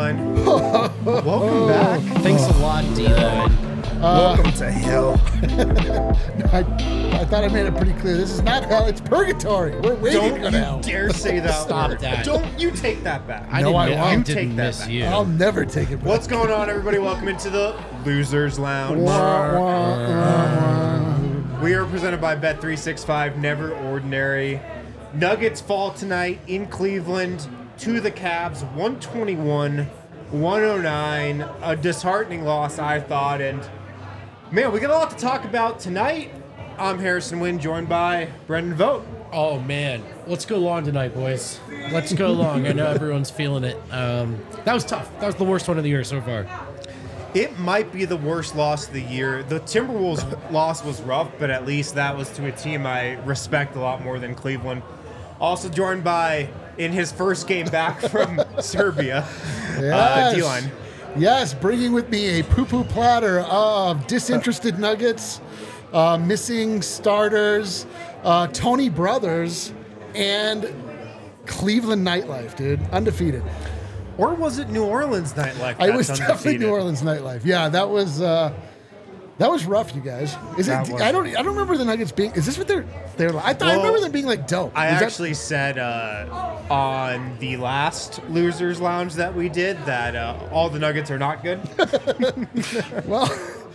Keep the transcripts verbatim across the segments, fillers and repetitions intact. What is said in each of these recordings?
D-Line. Welcome back. Thanks a lot, D-Line. Uh, Welcome to hell. I, I thought I made it pretty clear. This is not hell, it's purgatory. We're waiting Don't to you go to hell. dare say that Stop word. that. Don't you take that back. I No, didn't, I mi- won't. I You didn't take that miss back. you. I'll never take it back. What's going on, everybody? Welcome into the Losers Lounge. Wah, wah, wah, wah. We are presented by Bet three sixty-five, Never Ordinary. Nuggets fall tonight in Cleveland to the Cavs, one twenty-one one oh nine. A disheartening loss, I thought. And, man, we got a lot to talk about tonight. I'm Harrison Wynn, joined by Brendan Vogt. Oh, man. Let's go long tonight, boys. Let's go long. I know everyone's feeling it. Um, that was tough. That was the worst one of the year so far. It might be the worst loss of the year. The Timberwolves loss was rough, but at least that was to a team I respect a lot more than Cleveland. Also joined by, in his first game back from Serbia, uh, Yes. D-Line. Yes, bringing with me a poo-poo platter of disinterested Nuggets, uh, missing starters, uh, Tony Brothers, and Cleveland nightlife, dude. Undefeated. Or was it New Orleans nightlife? I was that's definitely undefeated? New Orleans nightlife. Yeah, that was uh, that was rough, you guys. Is That it? was I don't. I don't remember the Nuggets being. Is this what they're? They're. Like, I thought. I Well, remember them being like dope. I Is that- actually said uh, on the last Losers Lounge that we did that uh, all the Nuggets are not good. well.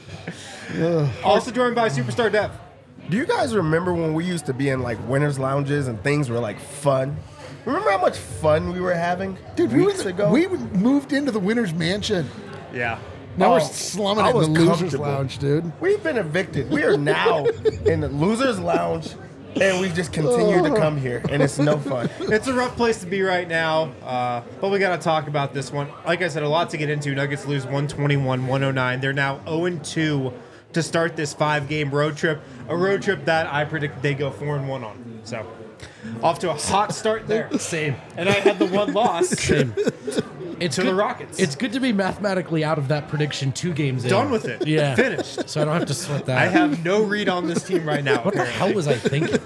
Also joined by Superstar Dev. Do you guys remember when we used to be in like winners lounges and things were like fun? Remember how much fun we were having Dude, we, weeks were, ago? we moved into the winner's mansion. Yeah. Now Oh, we're slumming I it in was the loser's comfortable. lounge, dude. We've been evicted. We are now in the losers lounge, and we just continue to come here, and it's no fun. It's a rough place to be right now, uh, but we got to talk about this one. Like I said, a lot to get into. Nuggets lose one twenty-one one oh nine. They're now oh and two to start this five-game road trip, a road trip that I predict they go four and one on. So, off to a hot start there. Same. And I had the one loss Same. It's to good, the Rockets. It's good to be mathematically out of that prediction two games in. Done with it. Yeah. Finished. So I don't have to sweat that. I have no read on this team right now. What the apparently. hell was I thinking?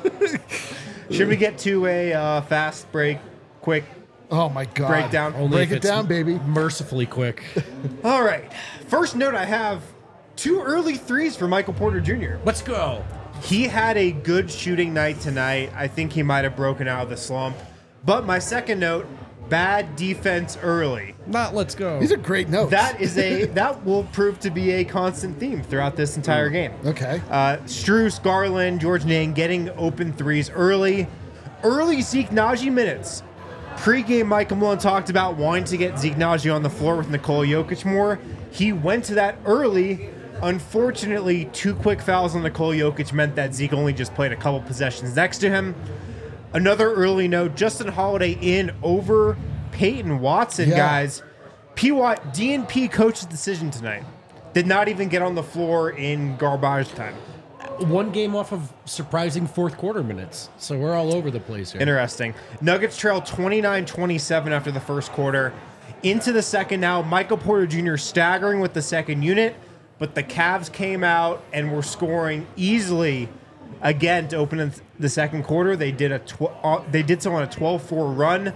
Should we get to a uh, fast break, quick Oh my god. breakdown? Only Break if it it's down, baby. Mercifully quick. All right. First note I have, two early threes for Michael Porter Junior Let's go. He had a good shooting night tonight. I think he might have broken out of the slump. But my second note, bad defense early. Not let's go. These are great notes. That is a that will prove to be a constant theme throughout this entire game. okay. Uh, Strus, Garland, George Niang getting open threes early. Early Zeke Naji minutes. Pre-game, Michael Malone talked about wanting to get Zeke Naji on the floor with Nikola Jokic more. He went to that early. Unfortunately, two quick fouls on Nikola Jokic meant that Zeke only just played a couple possessions next to him. Another early note, Justin Holiday in over Peyton Watson, Yeah. guys. P. Watt, D N P coach's decision tonight. Did not even get on the floor in garbage time. One game off of surprising fourth quarter minutes. So we're all over the place here. Interesting. Nuggets trail twenty-nine twenty-seven after the first quarter. Into the second now, Michael Porter Junior staggering with the second unit, but the Cavs came out and were scoring easily again to open the second quarter. They did a tw- uh, they did so on a twelve four run.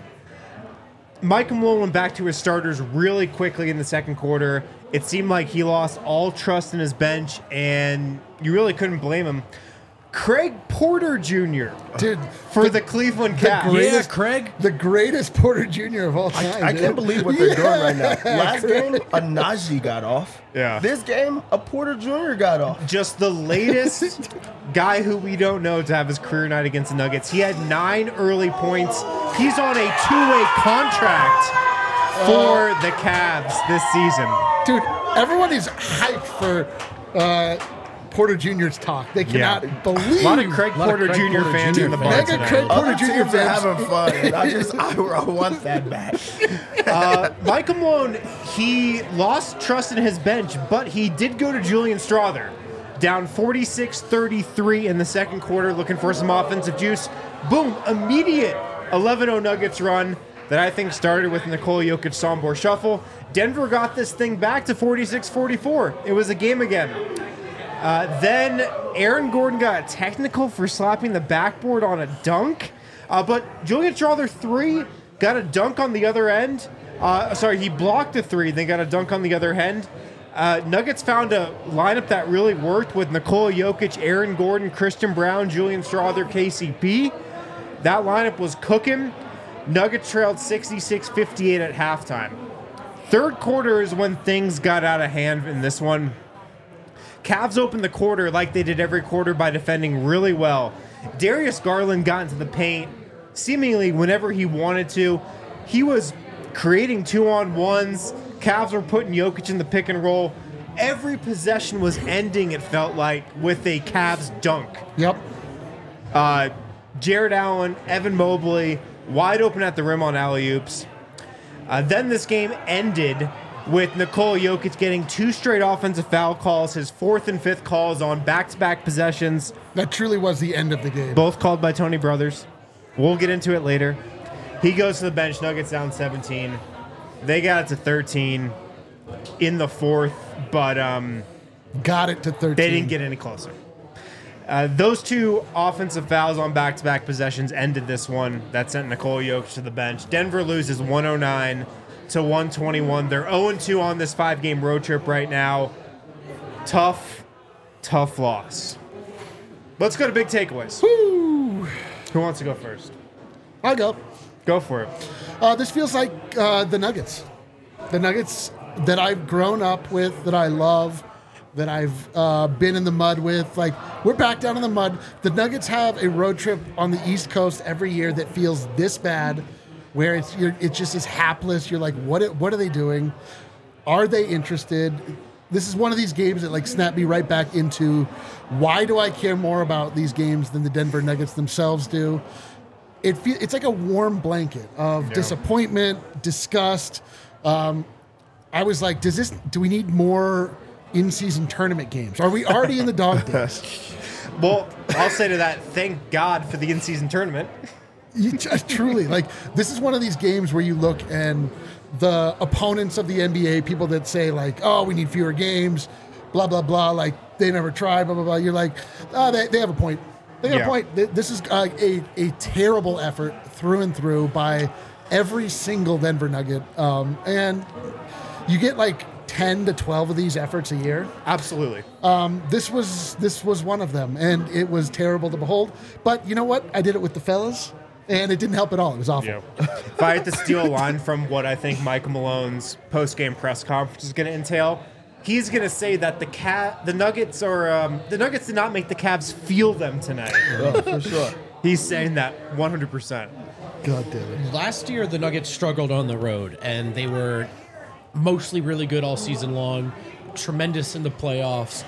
Michael Malone went back to his starters really quickly in the second quarter. It seemed like he lost all trust in his bench, and you really couldn't blame him. Craig Porter Junior Dude, for the Cleveland the Cavs. great- Yeah, Craig. the greatest Porter Junior of all time. I dude. can't believe what they're doing right now. Last game, a Najee got off. Yeah. This game, a Porter Junior got off. Just the latest guy who we don't know to have his career night against the Nuggets. He had nine early points. He's on a two-way contract for the Cavs this season. Dude, everyone is hyped for uh, Porter Junior's talk. They cannot Yeah. believe. A lot of Craig lot of Porter Craig Junior Porter fans Junior in the fans. bar Mega tonight. Craig Porter Other Junior teams are fans. having fun. And I just, I, I want that back. Uh, Michael Malone, he lost trust in his bench, but he did go to Julian Strother. Down forty-six thirty-three in the second quarter, looking for some offensive juice. Boom, immediate eleven oh Nuggets run that I think started with Nikola Jokic Sombor shuffle. Denver got this thing back to forty-six forty-four. It was a game again. Uh, then Aaron Gordon got a technical for slapping the backboard on a dunk. Uh, but Julian Strother three got a dunk on the other end. Uh, sorry, he blocked a three. They got a dunk on the other end. Uh, Nuggets found a lineup that really worked with Nikola Jokic, Aaron Gordon, Christian Brown, Julian Strawther, K C P. That lineup was cooking. Nuggets trailed sixty-six fifty-eight at halftime. Third quarter is when things got out of hand in this one. Cavs opened the quarter like they did every quarter by defending really well. Darius Garland got into the paint seemingly whenever he wanted to. He was creating two-on-ones. Cavs were putting Jokic in the pick and roll. Every possession was ending, it felt like, with a Cavs dunk. Yep. Uh, Jared Allen, Evan Mobley, wide open at the rim on alley-oops. Uh, then this game ended with Nikola Jokic getting two straight offensive foul calls, his fourth and fifth calls on back-to-back possessions. That truly was the end of the game. Both called by Tony Brothers. We'll get into it later. He goes to the bench. Nuggets down seventeen. They got it to thirteen in the fourth, but um, Got it to thirteen. they didn't get any closer. Uh, those two offensive fouls on back-to-back possessions ended this one. That sent Nikola Jokic to the bench. Denver loses one oh nine to one twenty-one. They're oh and two on this five-game road trip right now. Tough, tough loss. Let's go to big takeaways. Woo! Who wants to go first? I'll go. Go for it. Uh, this feels like uh, the Nuggets. The Nuggets that I've grown up with, that I love, that I've uh, been in the mud with. Like, we're back down in the mud. The Nuggets have a road trip on the East Coast every year that feels this bad, where it's you're, it just is hapless. You're like, what? What are they doing? Are they interested? This is one of these games that like snap me right back into why do I care more about these games than the Denver Nuggets themselves do? It fe- it's like a warm blanket of Yeah. disappointment, disgust. Um, I was like, does this? Do we need more in-season tournament games? Are we already in the dog days? Well, I'll say to that, thank God for the in-season tournament. You just, truly, like, this is one of these games where you look and the opponents of the N B A, people that say like, oh, we need fewer games, blah blah blah, like they never tried, blah blah blah. You're like, oh, they, they have a point. They have Yeah. a point. Th- This is uh, a a terrible effort through and through by every single Denver Nugget, um, and you get like ten to twelve of these efforts a year. Absolutely. Um, this was this was one of them, and it was terrible to behold. But you know what? I did it with the fellas, and it didn't help at all. It was awful. Yeah. If I had to steal a line from what I think Michael Malone's post-game press conference is going to entail, he's going to say that the cat, the Nuggets are um, the Nuggets did not make the Cavs feel them tonight. Oh, for sure. He's saying that one hundred percent. God damn it. Last year, the Nuggets struggled on the road, and they were mostly really good all season long, tremendous in the playoffs.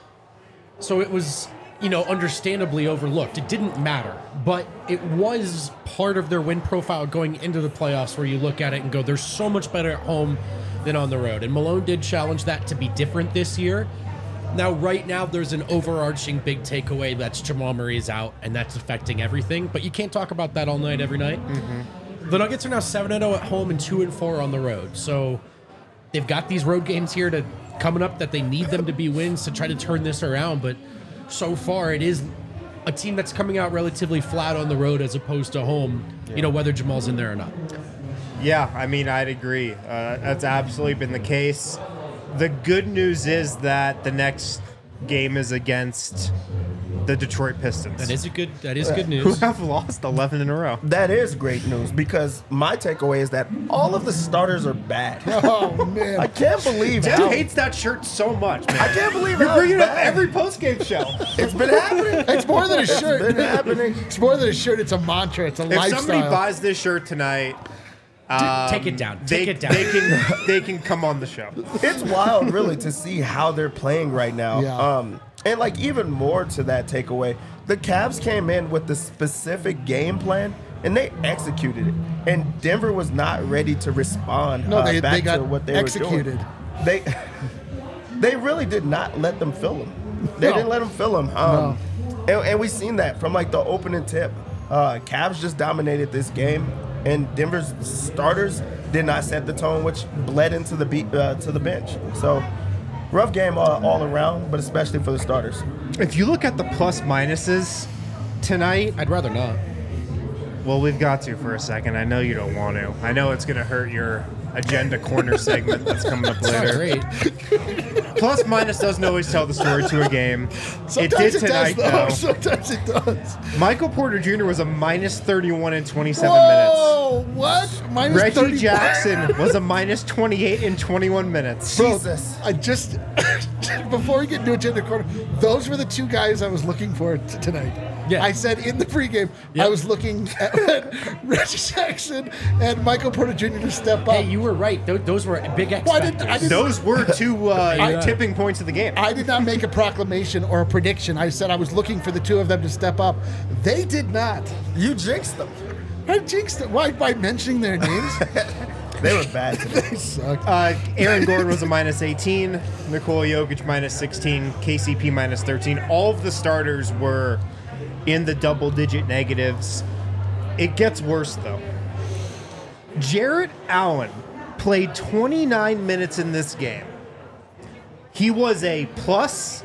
So it was, you know, understandably overlooked. It didn't matter, but it was part of their win profile going into the playoffs where you look at it and go, they're so much better at home than on the road. And Malone did challenge that to be different this year. Now, right now, there's an overarching big takeaway that's Jamal Murray's out, and that's affecting everything. But you can't talk about that all night, every night. Mm-hmm. The Nuggets are now seven and oh at home and two and four on the road. So they've got these road games here to coming up that they need them to be wins to try to turn this around. But so far, it is a team that's coming out relatively flat on the road as opposed to home, yeah. you know, whether Jamal's in there or not. Yeah, I mean, I'd agree. Uh, that's absolutely been the case. The good news is that the next game is against the Detroit Pistons. That is a good. That is good Who news. have lost eleven in a row. That is great news because my takeaway is that all of the starters are bad. Oh man. I can't believe Jeff how, hates that shirt so much, man. I can't believe You're how bringing it up bad. every post-game show. It's been happening. It's more than a It's shirt. been happening. It's more than a shirt. It's a mantra. It's a If lifestyle. somebody buys this shirt tonight, um, Take it down. They, Take it down. they can they can come on the show. It's wild, really, to see how they're playing right now. Yeah. Um, and like even more to that takeaway, the Cavs came in with the specific game plan and they executed it. And Denver was not ready to respond No, uh, they- back they got to what they executed. were doing. They they really did not let them fill them. They No. didn't let them fill them. Um, and, and we've seen that from like the opening tip. Uh, Cavs just dominated this game, and Denver's starters did not set the tone, which bled into the beat, uh, to the bench. So rough game all, all around, but especially for the starters. If you look at the plus minuses tonight, I'd rather not. Well, we've got to for a second. I know you don't want to. I know it's going to hurt your agenda corner segment that's coming up later. Great. Plus minus doesn't always tell the story to a game. Sometimes it did it tonight, does, though. though. Sometimes it does. Michael Porter Junior was a minus thirty-one in twenty-seven Whoa, what? minutes. Minus Reggie thirty Jackson was a minus twenty-eight in twenty-one minutes. Bro, Jesus. I just before we get into agenda corner, those were the two guys I was looking for t- tonight. Yeah. I said in the pregame, Yep. I was looking at Reggie Jackson and Michael Porter Junior to step up. Hey, you were right. Those, those were big X Why didn't- factors. I didn't- Those were two uh, Yeah. tipping points of the game. I did not make a proclamation or a prediction. I said I was looking for the two of them to step up. They did not. You jinxed them. I jinxed it. Why? By mentioning their names? They were bad today. They sucked. Uh, Aaron Gordon was a minus eighteen, Nikola Jokic minus sixteen, K C P minus thirteen. All of the starters were in the double-digit negatives. It gets worse, though. Jarrett Allen played twenty-nine minutes in this game. He was a plus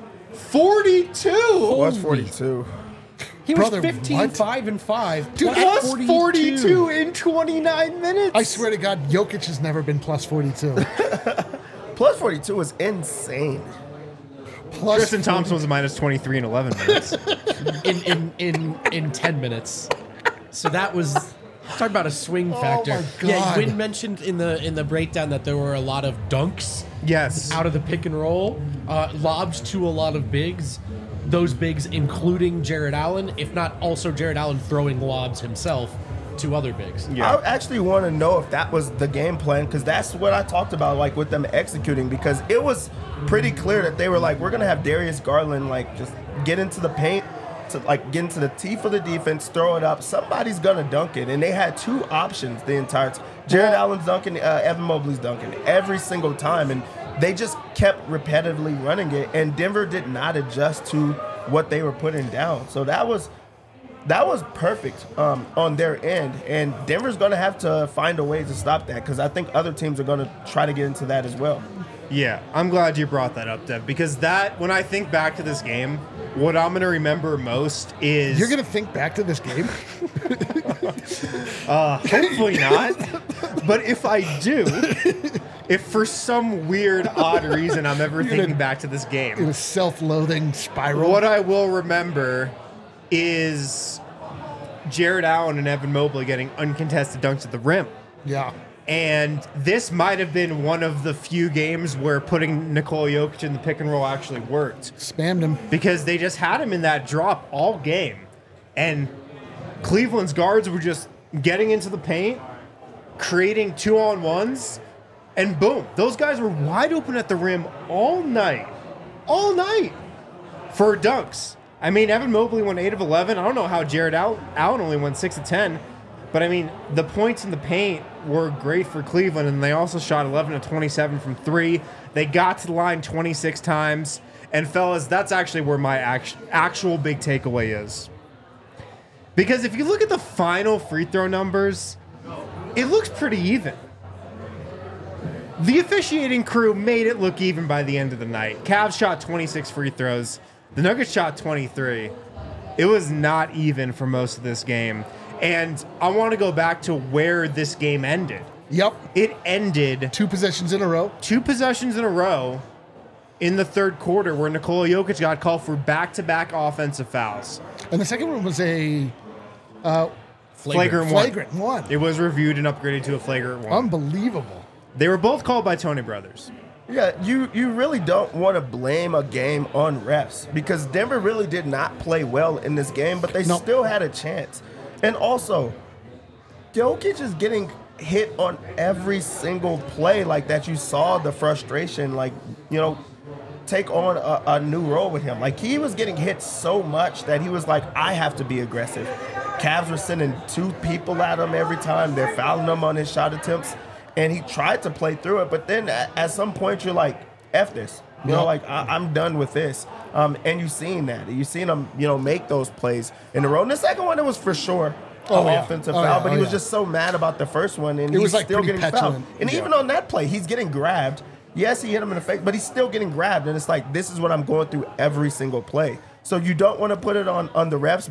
forty-two. Plus forty-two. He was Brother, fifteen, what? five, and five. Dude, plus Plus forty-two in twenty-nine minutes. I swear to God, Jokic has never been plus forty-two. Plus forty-two was insane. Plus Tristan Thompson was a minus twenty-three in eleven minutes. in, in, in, in ten minutes. So that was talk about a swing factor. my Yeah, God. Wynn mentioned in the in the breakdown that there were a lot of dunks Yes. out of the pick and roll, uh, lobs to a lot of bigs. Those bigs, including Jared Allen, if not also Jared Allen throwing lobs himself to other bigs. Yeah. I actually want to know if that was the game plan because that's what I talked about, like with them executing. Because it was pretty clear that they were like, we're gonna have Darius Garland like just get into the paint, to like get into the teeth of the defense, throw it up. Somebody's gonna dunk it, and they had two options the entire time. Jared Allen's dunking, uh, Evan Mobley's dunking every single time, and they just kept repetitively running it. And Denver did not adjust to what they were putting down. So that was. That was perfect um, on their end, and Denver's going to have to find a way to stop that because I think other teams are going to try to get into that as well. Yeah, I'm glad you brought that up, Dev, because that, when I think back to this game, what I'm going to remember most is... You're going to think back to this game? Uh, hopefully not. But if I do, if for some weird, odd reason I'm ever You're thinking gonna- back to this In game, a self-loathing spiral. what I will remember is Jared Allen and Evan Mobley getting uncontested dunks at the rim. Yeah. And this might have been one of the few games where putting Nikola Jokic in the pick and roll actually worked. Spammed him. Because they just had him in that drop all game. And Cleveland's guards were just getting into the paint, creating two-on-ones, and boom. Those guys were wide open at the rim all night. All night for dunks. I mean, Evan Mobley went eight of eleven. I don't know how Jared Al- Allen only went six of ten. But, I mean, the points in the paint were great for Cleveland, and they also shot eleven of twenty-seven from three. They got to the line twenty-six times. And, fellas, that's actually where my act- actual big takeaway is. Because if you look at the final free throw numbers, it looks pretty even. The officiating crew made it look even by the end of the night. Cavs shot twenty-six free throws. The Nuggets shot twenty-three. It was not even for most of this game. And I want to go back to where this game ended. Yep. It ended Two possessions in a row. two possessions in a row in the third quarter where Nikola Jokic got called for back-to-back offensive fouls. And the second one was a Flagrant one. flagrant one. It was reviewed and upgraded to a flagrant one. Unbelievable. They were both called by Tony Brothers. Yeah, you, you really don't want to blame a game on refs because Denver really did not play well in this game, but they Nope. still had a chance. And also, Jokic is getting hit on every single play like that. You saw the frustration, like, you know, take on a, a new role with him. Like, he was getting hit so much that he was like, I have to be aggressive. Cavs were sending two people at him every time. They're fouling him on his shot attempts. And he tried to play through it, but then at, at some point you're like, F this. You know, Yep. like, I, I'm done with this. Um, and you've seen that. You've seen him, you know, make those plays in a row. And the second one, it was for sure Oh, an yeah. offensive Oh, foul, yeah. but Oh, he was yeah. just so mad about the first one, and It he's was, like, still pretty getting petulant. fouled. And Yeah. even on that play, he's getting grabbed. Yes, he hit him in the face, but he's still getting grabbed. And it's like, this is what I'm going through every single play. So you don't want to put it on, on the refs, but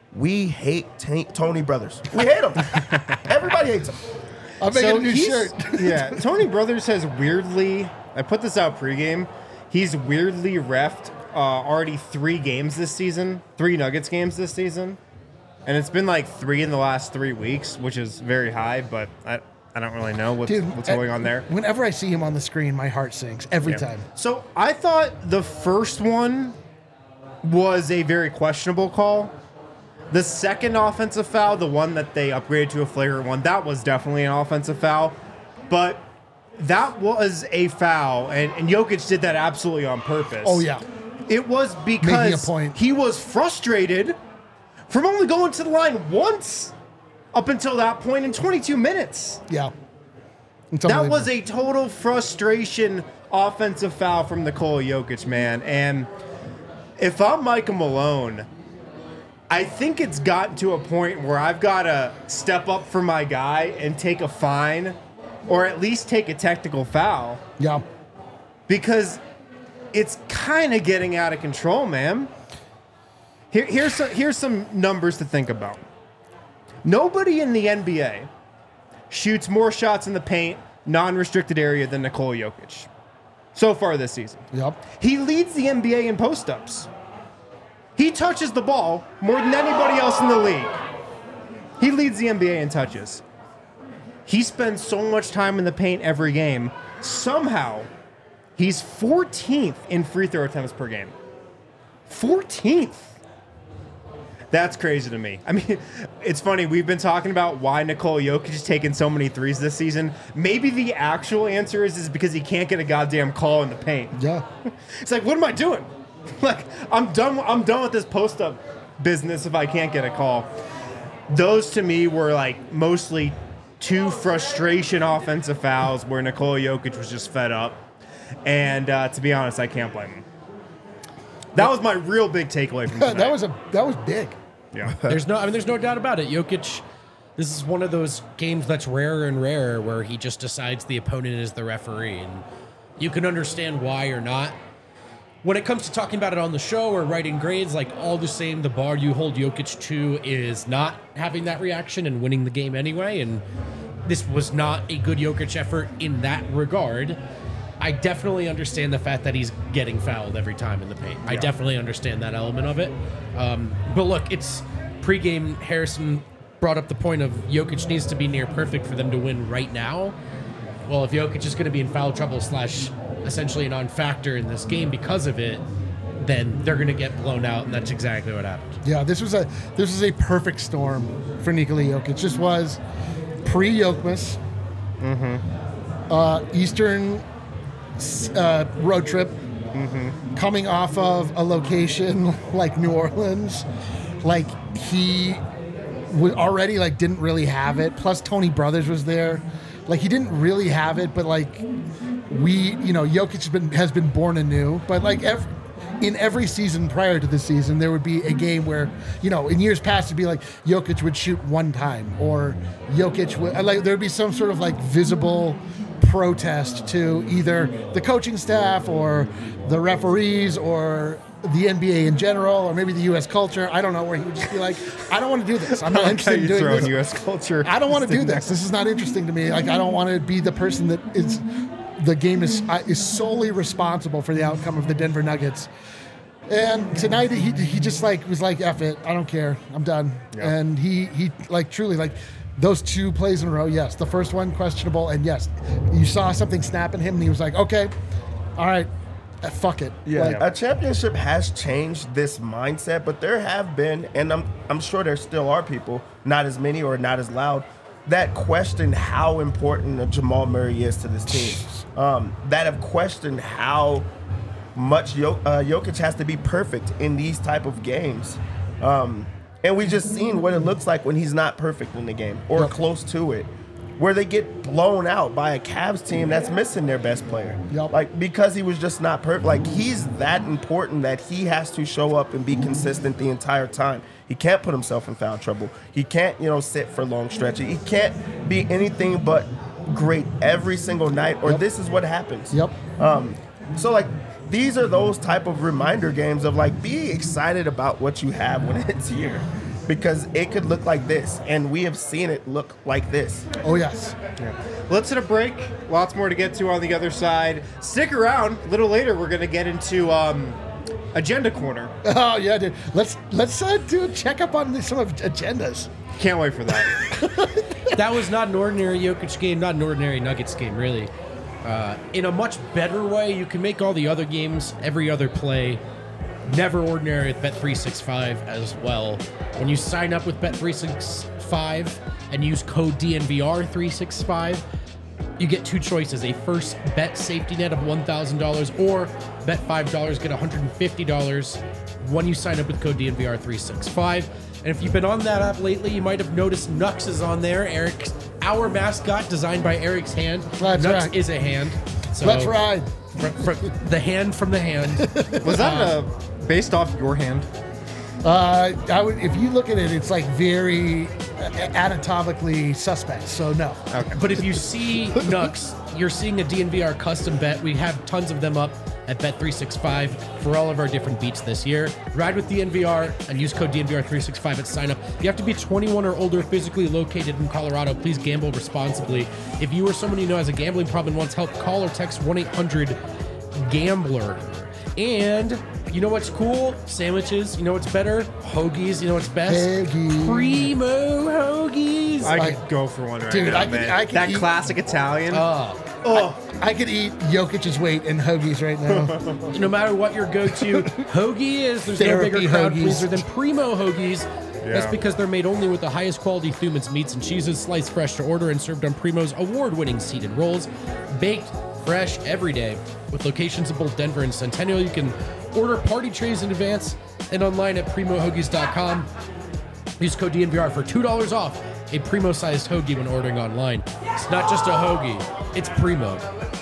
we hate t- Tony Brothers. We hate him. Everybody hates him. I'm making So a new he's- shirt. Yeah, Tony Brothers has weirdly. I put this out pregame. He's weirdly refed uh, already three games this season, three Nuggets games this season, and it's been like three in the last three weeks, which is very high. But I, I don't really know what's, Dude, what's uh, going on there. Whenever I see him on the screen, my heart sinks every Yeah. time. So I thought the first one was a very questionable call. The second offensive foul, the one that they upgraded to a flagrant one, that was definitely an offensive foul. But that was a foul, and, and Jokic did that absolutely on purpose. Oh, yeah. It was Making because a point. he was frustrated from only going to the line once up until that point in twenty-two minutes. Yeah. It's That unbelievable. was a total frustration offensive foul from Nikola Jokic, man. And if I'm Micah Malone, I think it's gotten to a point where I've got to step up for my guy and take a fine or at least take a technical foul Yeah. because it's kind of getting out of control, man. Here, here's, some, here's some numbers to think about. Nobody in the N B A shoots more shots in the paint, non-restricted area than Nikola Jokic so far this season. Yep. He leads the N B A in post-ups. He touches the ball more than anybody else in the league. He leads the N B A in touches. He spends so much time in the paint every game. Somehow, he's fourteenth in free throw attempts per game. fourteenth. That's crazy to me. I mean, it's funny. We've been talking about why Nikola Jokic is taking so many threes this season. Maybe the actual answer is, is because he can't get a goddamn call in the paint. Yeah. It's like, what am I doing? Like, I'm done. I'm done with this post-up business if I can't get a call. Those to me were like mostly two frustration offensive fouls where Nikola Jokic was just fed up. And uh, to be honest, I can't blame him. That was my real big takeaway from tonight. that was a that was big. Yeah. There's no, I mean, there's no doubt about it. Jokic, this is one of those games that's rarer and rarer where he just decides the opponent is the referee, and you can understand why or not. When it comes to talking about it on the show or writing grades, like all the same, the bar you hold Jokic to is not having that reaction and winning the game anyway. And this was not a good Jokic effort in that regard. I definitely understand the fact that he's getting fouled every time in the paint. I definitely understand that element of it. Um, but look, it's pregame. Harrison brought up the point of Jokic needs to be near perfect for them to win right now. Well, if Jokic is going to be in foul trouble slash essentially a non-factor in this game because of it, then they're going to get blown out, and that's exactly what happened. Yeah, this was a this was a perfect storm for Nikola Jokic. This was pre-Yokmas, Mm-hmm. uh, Eastern uh, road trip, Mm-hmm. coming off of a location like New Orleans, like he was already like didn't really have it. Plus Tony Brothers was there, like he didn't really have it. But like we, you know, Jokic has been has been born anew. But like every, in every season prior to this season, there would be a game where, you know, in years past it'd be like Jokic would shoot one time, or Jokic would like there'd be some sort of like visible protest to either the coaching staff or the referees or the N B A in general, or maybe the U S culture. I don't know, where he would just be like, I don't want to do this. I'm not How interested in you doing throw in this. U S culture. I don't want to do this. This is not interesting to me. Like, I don't want to be the person that is the game is uh, is solely responsible for the outcome of the Denver Nuggets. And tonight he he just like was like, F it, I don't care, I'm done. Yeah. And he he like truly like those two plays in a row. Yes, the first one questionable, and yes, you saw something snap in him, and he was like, okay, all right, uh, fuck it. Yeah, Like, a championship has changed this mindset, but there have been, and I'm I'm sure there still are people, not as many or not as loud, that question how important Jamal Murray is to this team. Um, that have questioned how much Jok- uh, Jokic has to be perfect in these type of games. Um, and we just seen what it looks like when he's not perfect in the game or Yep. close to it, where they get blown out by a Cavs team that's missing their best player. Yep. Like, because he was just not perfect. Like, he's that important that he has to show up and be consistent the entire time. He can't put himself in foul trouble. He can't, you know, sit for long stretches. He can't be anything but great every single night, or Yep. this is what happens. Yep. Um, so, like, these are those type of reminder games of, like, be excited about what you have when it's here. because it could look like this, and we have seen it look like this. Oh, yes. Yeah. Let's hit a break. Lots more to get to on the other side. Stick around. A little later, we're going to get into um, Agenda Corner. Oh, yeah, dude. Let's let's uh, do a checkup on the, some of agendas. Can't wait for that. That was not an ordinary Jokic game, not an ordinary Nuggets game, really. Uh, in a much better way, you can make all the other games, every other play, never ordinary with Bet three sixty-five as well. When you sign up with Bet three sixty-five and use code D N V R three sixty-five, you get two choices: a first bet safety net of one thousand dollars, or bet five dollars, get one hundred fifty dollars when you sign up with code D N V R three sixty-five. And if you've been on that app lately, you might have noticed Nux is on there. Eric, our mascot, designed by Eric's hand. That's Nux right. is a hand. So Let's ride. fr- fr- the hand from the hand. Was that uh, based off your hand? Uh, I would, if you look at it, it's like very uh, anatomically suspect. So no. Okay. But if you see Nux, you're seeing a D N V R custom bet. We have tons of them up at Bet three sixty-five for all of our different beats this year. Ride with D N V R and use code D N V R three sixty-five at sign up. You have to be twenty-one or older, physically located in Colorado. Please gamble responsibly. If you or someone you know has a gambling problem and wants help, call or text one eight hundred gambler. And you know what's cool? Sandwiches. You know what's better? Hoagies. You know what's best? Hoagies. Primo Hoagies. I Like- could go for one right Dude, now, I could- man. I could that eat- classic Italian. Oh. oh, I could eat Jokic's weight in hoagies right now. No matter what your go-to hoagie is, there's no Therapy bigger crowd hoagies. pleaser than Primo Hoagies. That's Yeah. because they're made only with the highest quality Thumans meats and cheeses, sliced fresh to order and served on Primo's award-winning seeded rolls, baked fresh every day. With locations in both Denver and Centennial, you can order party trays in advance and online at primo hoagies dot com. Use code D N V R for two dollars off a Primo-sized hoagie when ordering online. It's not just a hoagie, it's Primo.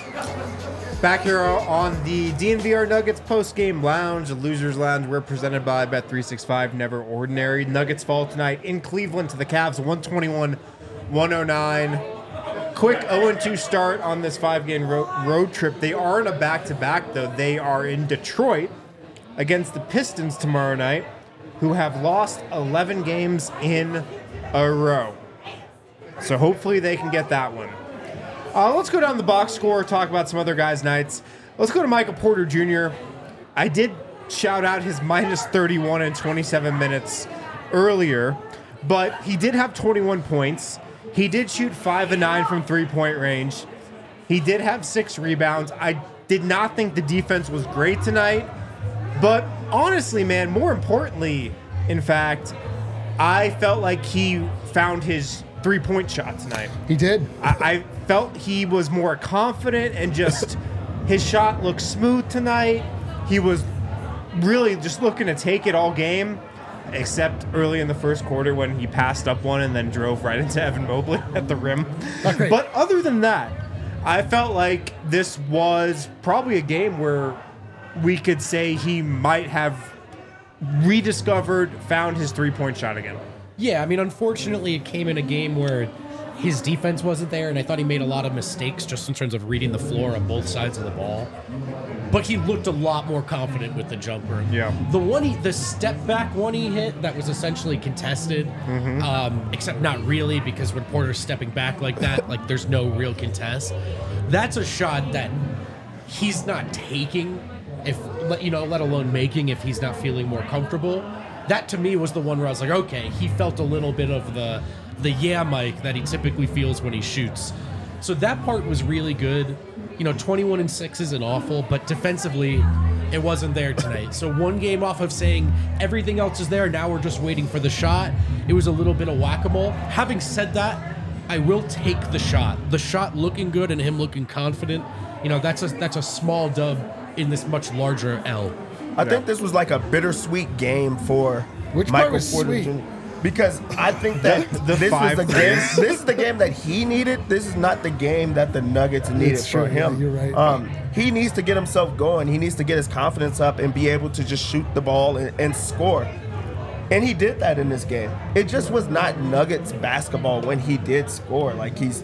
Back here on the D N V R Nuggets post-game lounge, the Losers Lounge. We're presented by Bet three sixty-five, never ordinary. Nuggets fall tonight in Cleveland to the Cavs, one twenty-one one oh nine. Quick oh and two start on this five-game ro- road trip. They aren't a back-to-back, though. They are in Detroit against the Pistons tomorrow night, who have lost eleven games in a row. So hopefully they can get that one. Uh, let's go down the box score, talk about some other guys' nights. Let's go to Michael Porter Junior I did shout out his minus thirty-one in twenty-seven minutes earlier, but he did have twenty-one points. He did shoot five and nine from three-point range. He did have six rebounds. I did not think the defense was great tonight, but honestly, man, more importantly, in fact, I felt like he found his three-point shot tonight. He did. I, I felt he was more confident and just his shot looked smooth tonight. He was really just looking to take it all game, except early in the first quarter when he passed up one and then drove right into Evan Mobley at the rim. Okay. But other than that, I felt like this was probably a game where we could say he might have rediscovered, found his three-point shot again. Yeah, I mean, unfortunately, it came in a game where his defense wasn't there, and I thought he made a lot of mistakes just in terms of reading the floor on both sides of the ball. But he looked a lot more confident with the jumper. Yeah. The one, he, the step back one he hit that was essentially contested, um, except not really, because when Porter's stepping back like that, like there's no real contest. That's a shot that he's not taking, if you know, let alone making if he's not feeling more comfortable. That to me was the one where I was like, okay, he felt a little bit of the the yeah Mike that he typically feels when he shoots. So that part was really good. You know, twenty-one and six isn't awful, but defensively, it wasn't there tonight. So one game off of saying everything else is there, now we're just waiting for the shot. It was a little bit of whack-a-mole. Having said that, I will take the shot. The shot looking good and him looking confident. You know, that's a that's a small dub in this much larger L. I think this was like a bittersweet game for Which part Michael was Porter sweet? Junior Because I think that The- the this five was the game. threes. This is the game that he needed. This is not the game that the Nuggets needed It's for true, yeah, him. you're right. Um, he needs to get himself going. He needs to get his confidence up and be able to just shoot the ball and, and score. And he did that in this game. It just was not Nuggets basketball when he did score. Like he's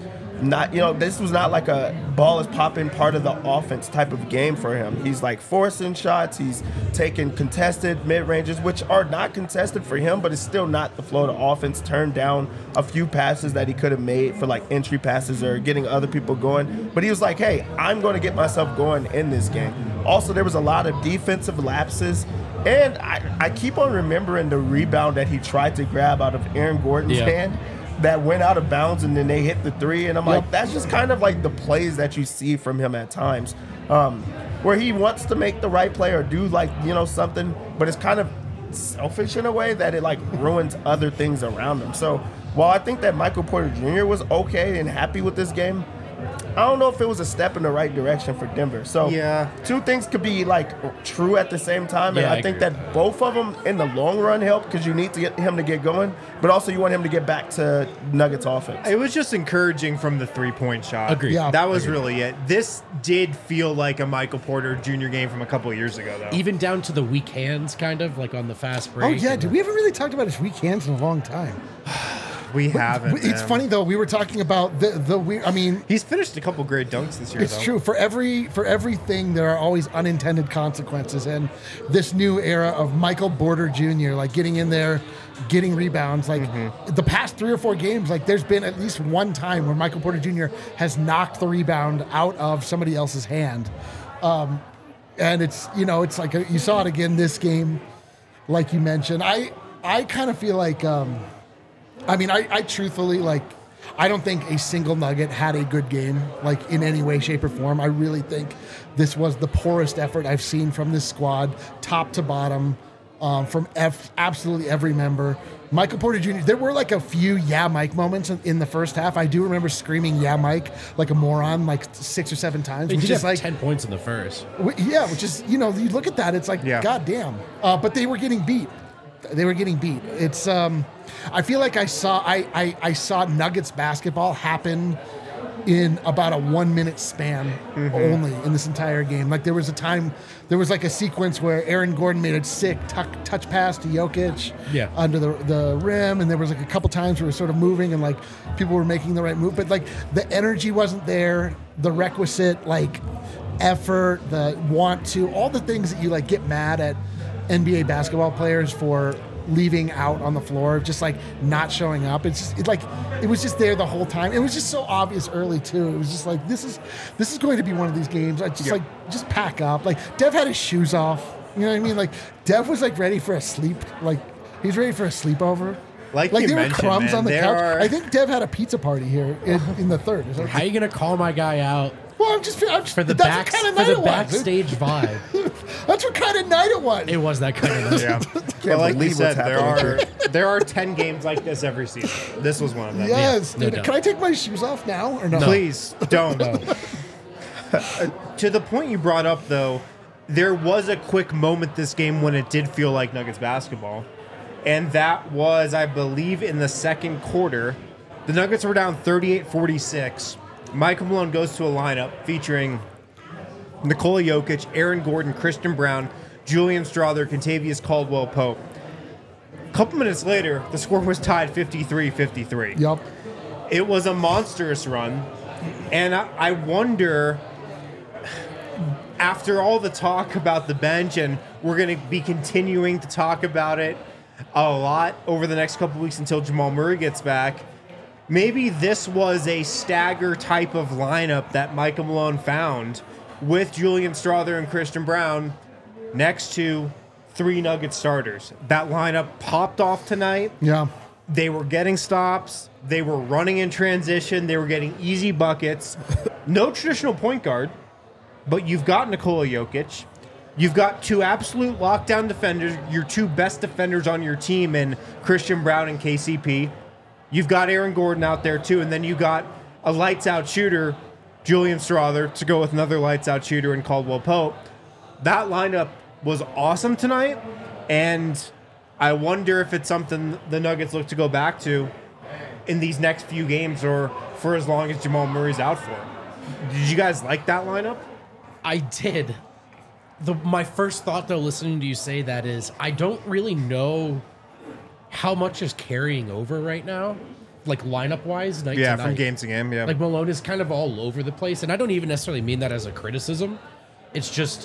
not, you know, this was not like a ball is popping part of the offense type of game for him. He's like forcing shots. He's taking contested mid ranges, which are not contested for him, but it's still not the flow of the offense. Turned down a few passes that he could have made for like entry passes or getting other people going. But he was like, hey, I'm going to get myself going in this game. Also, there was a lot of defensive lapses. And I, I keep on remembering the rebound that he tried to grab out of Aaron Gordon's Yeah. hand that went out of bounds, and then they hit the three. And I'm Yep. like, that's just kind of like the plays that you see from him at times, um, where he wants to make the right play or do like, you know, something, but it's kind of selfish in a way that it like ruins other things around him. So while I think that Michael Porter Junior was okay and happy with this game, I don't know if it was a step in the right direction for Denver. So Yeah. two things could be like true at the same time, and Yeah, I, I think agree. that both of them in the long run help because you need to get him to get going, but also you want him to get back to Nuggets offense. It was just encouraging from the three-point shot. Agreed. Yeah. That was really it. This did feel like a Michael Porter Junior game from a couple of years ago, though. Even down to the weak hands, kind of like on the fast break. Oh yeah, and dude, we haven't really talked about his weak hands in a long time. We haven't. It's man. funny though. We were talking about the the weird. I mean, He's finished a couple great dunks this year, it's though. true. For every for everything, there are always unintended consequences. And this new era of Michael Porter Junior, like getting in there, getting rebounds, like the past three or four games, like there's been at least one time where Michael Porter Junior has knocked the rebound out of somebody else's hand. Um, and it's, you know, it's like a, you saw it again this game, like you mentioned. I I kind of feel like, um, I mean, I, I truthfully like. I don't think a single Nugget had a good game, like in any way, shape, or form. I really think this was the poorest effort I've seen from this squad, top to bottom, um, from F- absolutely every member. Michael Porter Junior, there were like a few yeah, Mike moments in, in the first half. I do remember screaming yeah, Mike, like a moron, like six or seven times. They Which did is have like, ten points in the first. w- yeah, which is, you know, you look at that, it's like, Yeah. goddamn. Uh, but they were getting beat. They were getting beat. It's, um, I feel like I saw, I, I, I saw Nuggets basketball happen in about a one minute span only in this entire game. Like there was a time, there was like a sequence where Aaron Gordon made a sick tuck, touch pass to Jokic Yeah. under the, the rim. And there was like a couple times where we were sort of moving and like people were making the right move, but like the energy wasn't there. The requisite like effort, the want to, all the things that you like get mad at N B A basketball players for leaving out on the floor, just like not showing up. It's just it like it was just there the whole time. It was just so obvious early too. It was just like this is this is going to be one of these games. I just Yeah. like just pack up. Like Dev had his shoes off. You know what I mean? Like Dev was like ready for a sleep. Like he's ready for a sleepover. Like like you there were mentioned, crumbs man, on the there couch. are- I think Dev had a pizza party here in, in the third. Is that- How are you gonna call my guy out well, I'm just, I'm just for the that's back what kind of for night the it was. backstage vibe? That's what kind of night it was. It was that kind of night. Yeah. Well, like you believe said, what's there happening are there are ten games like this every season. This was one of them. Yes, no dude. doubt. Can I take my shoes off now or no? Please don't. To the point you brought up, though, there was a quick moment this game when it did feel like Nuggets basketball. And that was, I believe, in the second quarter. The Nuggets were down thirty-eight forty-six. Michael Malone goes to a lineup featuring Nikola Jokic, Aaron Gordon, Christian Brown, Julian Strawther, Contavious Caldwell-Pope. A couple minutes later, the score was tied fifty-three fifty-three. Yup. It was a monstrous run. And I, I wonder, after all the talk about the bench, and we're going to be continuing to talk about it a lot over the next couple weeks until Jamal Murray gets back, maybe this was a stagger type of lineup that Michael Malone found with Julian Strawther and Christian Brown next to three Nugget starters. That lineup popped off tonight. Yeah. They were getting stops. They were running in transition. They were getting easy buckets. No traditional point guard, but you've got Nikola Jokic. You've got two absolute lockdown defenders, your two best defenders on your team in Christian Brown and K C P. You've got Aaron Gordon out there too, and then you got a lights-out shooter, Julian Strawther, to go with another lights-out shooter in Caldwell-Pope. That lineup was awesome tonight, and I wonder if it's something the Nuggets look to go back to in these next few games or for as long as Jamal Murray's out for. Did you guys like that lineup? I did. The my first thought though, listening to you say that, is I don't really know how much is carrying over right now like lineup wise, night Yeah, to from night. game to game. Yeah. Like Malone is kind of all over the place, and I don't even necessarily mean that as a criticism. It's just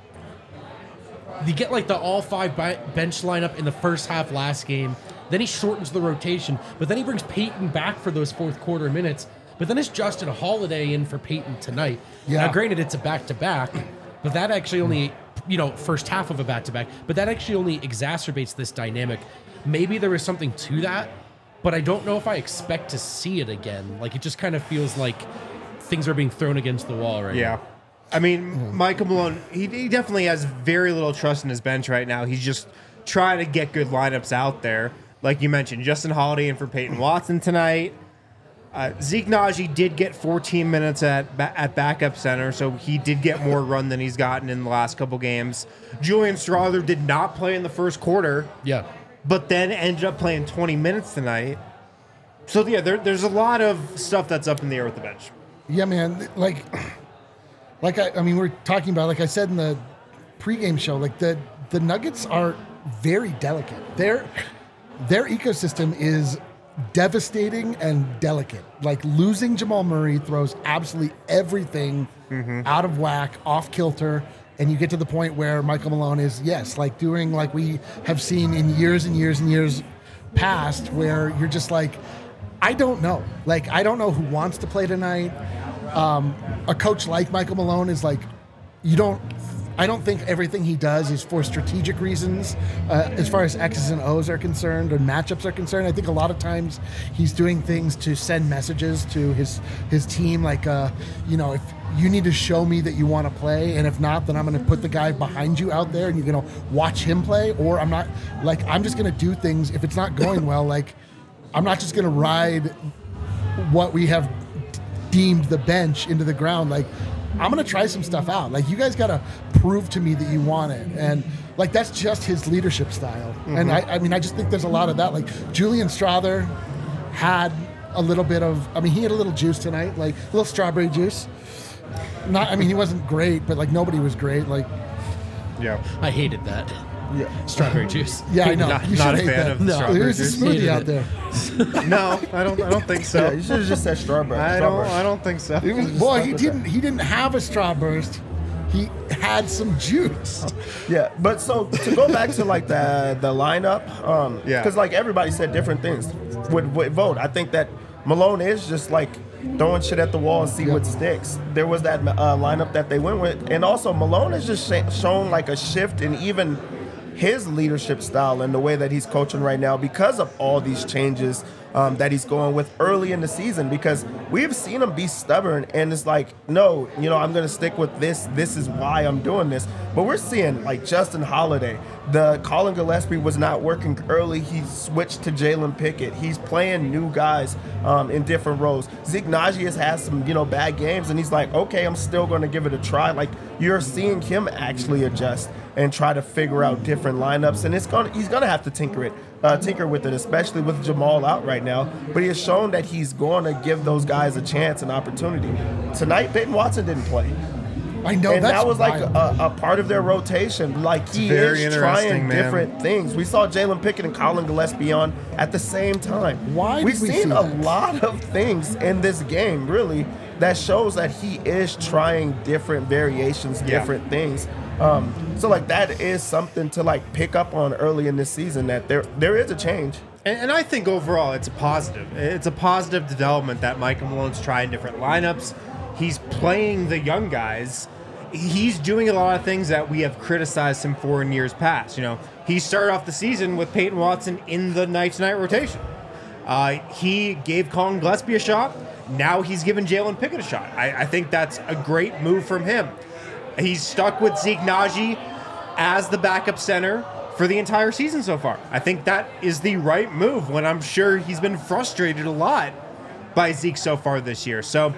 you get like the all five bi- bench lineup in the first half last game. Then he shortens the rotation, but then he brings Peyton back for those fourth quarter minutes. But then it's Justin Holiday in for Peyton tonight. Yeah. Now, granted, it's a back to back, but that actually only, you know, first half of a back to back, but that actually only exacerbates this dynamic. Maybe there is something to that, but I don't know if I expect to see it again. Like, it just kind of feels like things are being thrown against the wall right Yeah. now. I mean, Michael Malone, he, he definitely has very little trust in his bench right now. He's just trying to get good lineups out there. Like you mentioned, Justin Holiday in for Peyton Watson tonight. Uh, Zeke Naji did get fourteen minutes at ba- at backup center, so he did get more run than he's gotten in the last couple games. Julian Strawther did not play in the first quarter, Yeah. but then ended up playing twenty minutes tonight. So, yeah, there, there's a lot of stuff that's up in the air with the bench. Yeah, man. Like, like I, I mean, we're talking about, like I said in the pregame show, like the the Nuggets are very delicate. Their their ecosystem is devastating and delicate. Like losing Jamal Murray throws absolutely everything out of whack, off kilter. And you get to the point where Michael Malone is, yes, like doing like we have seen in years and years and years past, where you're just like, I don't know. Like, I don't know who wants to play tonight. Um, a coach like Michael Malone is like, you don't, I don't think everything he does is for strategic reasons uh, as far as X's and O's are concerned or matchups are concerned. I think a lot of times he's doing things to send messages to his his team, like, uh, you know, if you need to show me that you want to play, and if not, then I'm going to put the guy behind you out there and you're going to watch him play, or I'm not, like, I'm just going to do things. If it's not going well, like, I'm not just going to ride what we have deemed the bench into the ground. Like, I'm going to try some stuff out. Like, you guys got to prove to me that you want it. And, like, that's just his leadership style. Mm-hmm. And, I, I mean, I just think there's a lot of that. Like, Julian Strawther had a little bit of, I mean, he had a little juice tonight, like, a little strawberry juice. Not, I mean, he wasn't great, but, like, nobody was great. Like, Yeah. I hated that. yeah. Strawberry juice. Yeah, I know. Not- you not should a hate fan that. of No. strawberry There's a juice. smoothie Hated out it. there. No, I don't. I don't think so. Yeah, you should have just said strawberry. I don't. Strawberry. I don't think so. It was, boy, he didn't. He didn't have a strawburst. He had some juice. Yeah, but so to go back to like the the lineup, um, Yeah. because like everybody said different things with, with vote. I think that Malone is just like throwing shit at the wall and see Yeah. what sticks. There was that uh, lineup that they went with, and also Malone has just sh- shown like a shift in even his leadership style and the way that he's coaching right now because of all these changes um, that he's going with early in the season, because we've seen him be stubborn and it's like, no, you know, I'm going to stick with this. This is why I'm doing this. But we're seeing like Justin Holiday, the Colin Gillespie was not working early. He switched to Jalen Pickett. He's playing new guys um, in different roles. Zeke Naji has had some, you know, bad games and he's like, okay, I'm still going to give it a try. Like, you're seeing him actually adjust and try to figure out different lineups, and it's going he's going to have to tinker it, uh, tinker with it, especially with Jamal out right now. But he has shown that he's going to give those guys a chance and opportunity. Tonight, Peyton Watson didn't play. I know And that's that was like wild. a, a part of their rotation. Like, he very is interesting, trying man. different things. We saw Jalen Pickett and Colin Gillespie on at the same time. Why We've did we seen see a that? lot of things in this game, really, that shows that he is trying different variations, Yeah. different things. Um, so, like, that is something to, like, pick up on early in this season, that there there is a change. And, and I think overall it's a positive. It's a positive development that Michael Malone's trying different lineups. He's playing the young guys. He's doing a lot of things that we have criticized him for in years past. You know, he started off the season with Peyton Watson in the night-to-night rotation. Uh, he gave Colin Gillespie a shot. Now he's given Jalen Pickett a shot. I, I think that's a great move from him. He's stuck with Zeke Naji as the backup center for the entire season so far. I think that is the right move when I'm sure he's been frustrated a lot by Zeke so far this year. So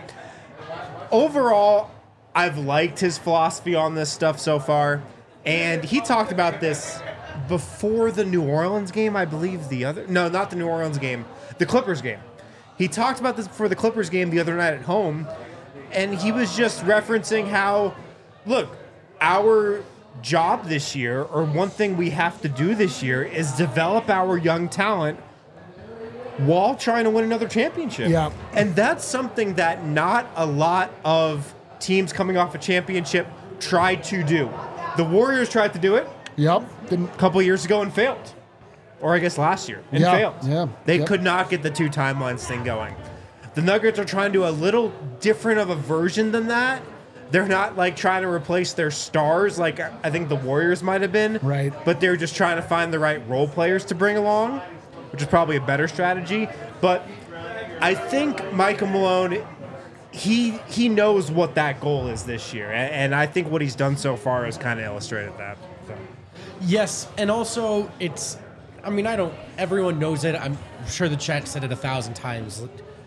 overall, I've liked his philosophy on this stuff so far. And he talked about this before the New Orleans game, I believe the other... No, not the New Orleans game. The Clippers game. He talked about this before the Clippers game the other night at home. And he was just referencing how, look, our job this year, or one thing we have to do this year, is develop our young talent while trying to win another championship. Yeah. And that's something that not a lot of teams coming off a championship try to do. The Warriors tried to do it Yep. Didn't, a couple years ago and failed. Or I guess last year and Yeah, failed. yeah, They yep. could not get the two timelines thing going. The Nuggets are trying to do a little different of a version than that. They're not like trying to replace their stars like I think the Warriors might have been. Right. But they're just trying to find the right role players to bring along, which is probably a better strategy. But I think Michael Malone, he he knows what that goal is this year. And, and I think what he's done so far has kind of illustrated that. So. Yes, and also it's, I mean, I don't, everyone knows it. I'm sure the chat said it a thousand times.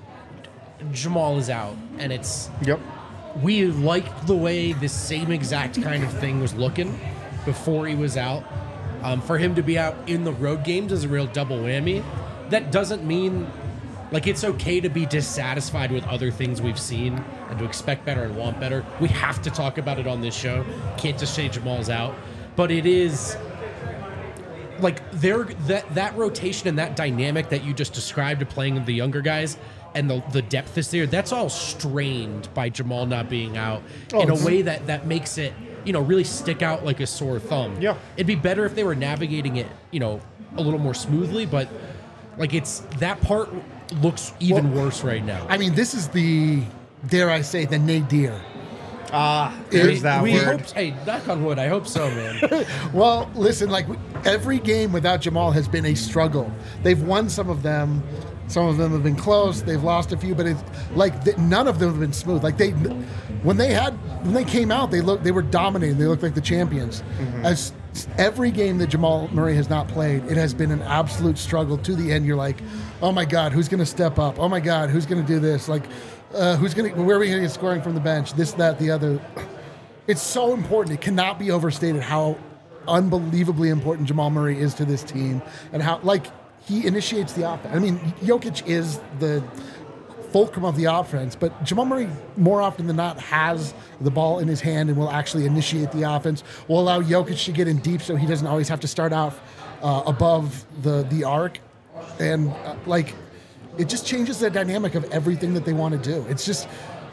Jamal is out, and it's, Yep. we liked the way this same exact kind of thing was looking before he was out. Um, for him to be out in the road games is a real double whammy. That doesn't mean, like, it's okay to be dissatisfied with other things we've seen and to expect better and want better. We have to talk about it on this show. Can't just say Jamal's out. But it is, like, there that that rotation and that dynamic that you just described of playing the younger guys and the, the depth is there, that's all strained by Jamal not being out Oh, in a it's- way that, that makes it, you know, really stick out like a sore thumb. Yeah. It'd be better if they were navigating it, you know, a little more smoothly, but like it's that part looks even Well, worse right now. I mean, this is the, dare I say, the nadir. Ah, there's that we word. hope, hey, knock on wood, I hope so, man. Well, listen, like every game without Jamal has been a struggle. They've won some of them. Some of them have been close. They've lost a few, but it's like th- none of them have been smooth. Like they, when they had, when they came out, they looked, they were dominating. They looked like the champions. Mm-hmm. As every game that Jamal Murray has not played, it has been an absolute struggle to the end. You're like, oh my God, who's going to step up? Oh my God, who's going to do this? Like, uh, who's going to, where are we going to get scoring from the bench? This, that, the other. It's so important. It cannot be overstated how unbelievably important Jamal Murray is to this team and how, like, he initiates the offense. I mean, Jokic is the fulcrum of the offense, but Jamal Murray, more often than not, has the ball in his hand and will actually initiate the offense, will allow Jokic to get in deep so he doesn't always have to start off uh, above the, the arc. And, uh, like, it just changes the dynamic of everything that they want to do. It's just,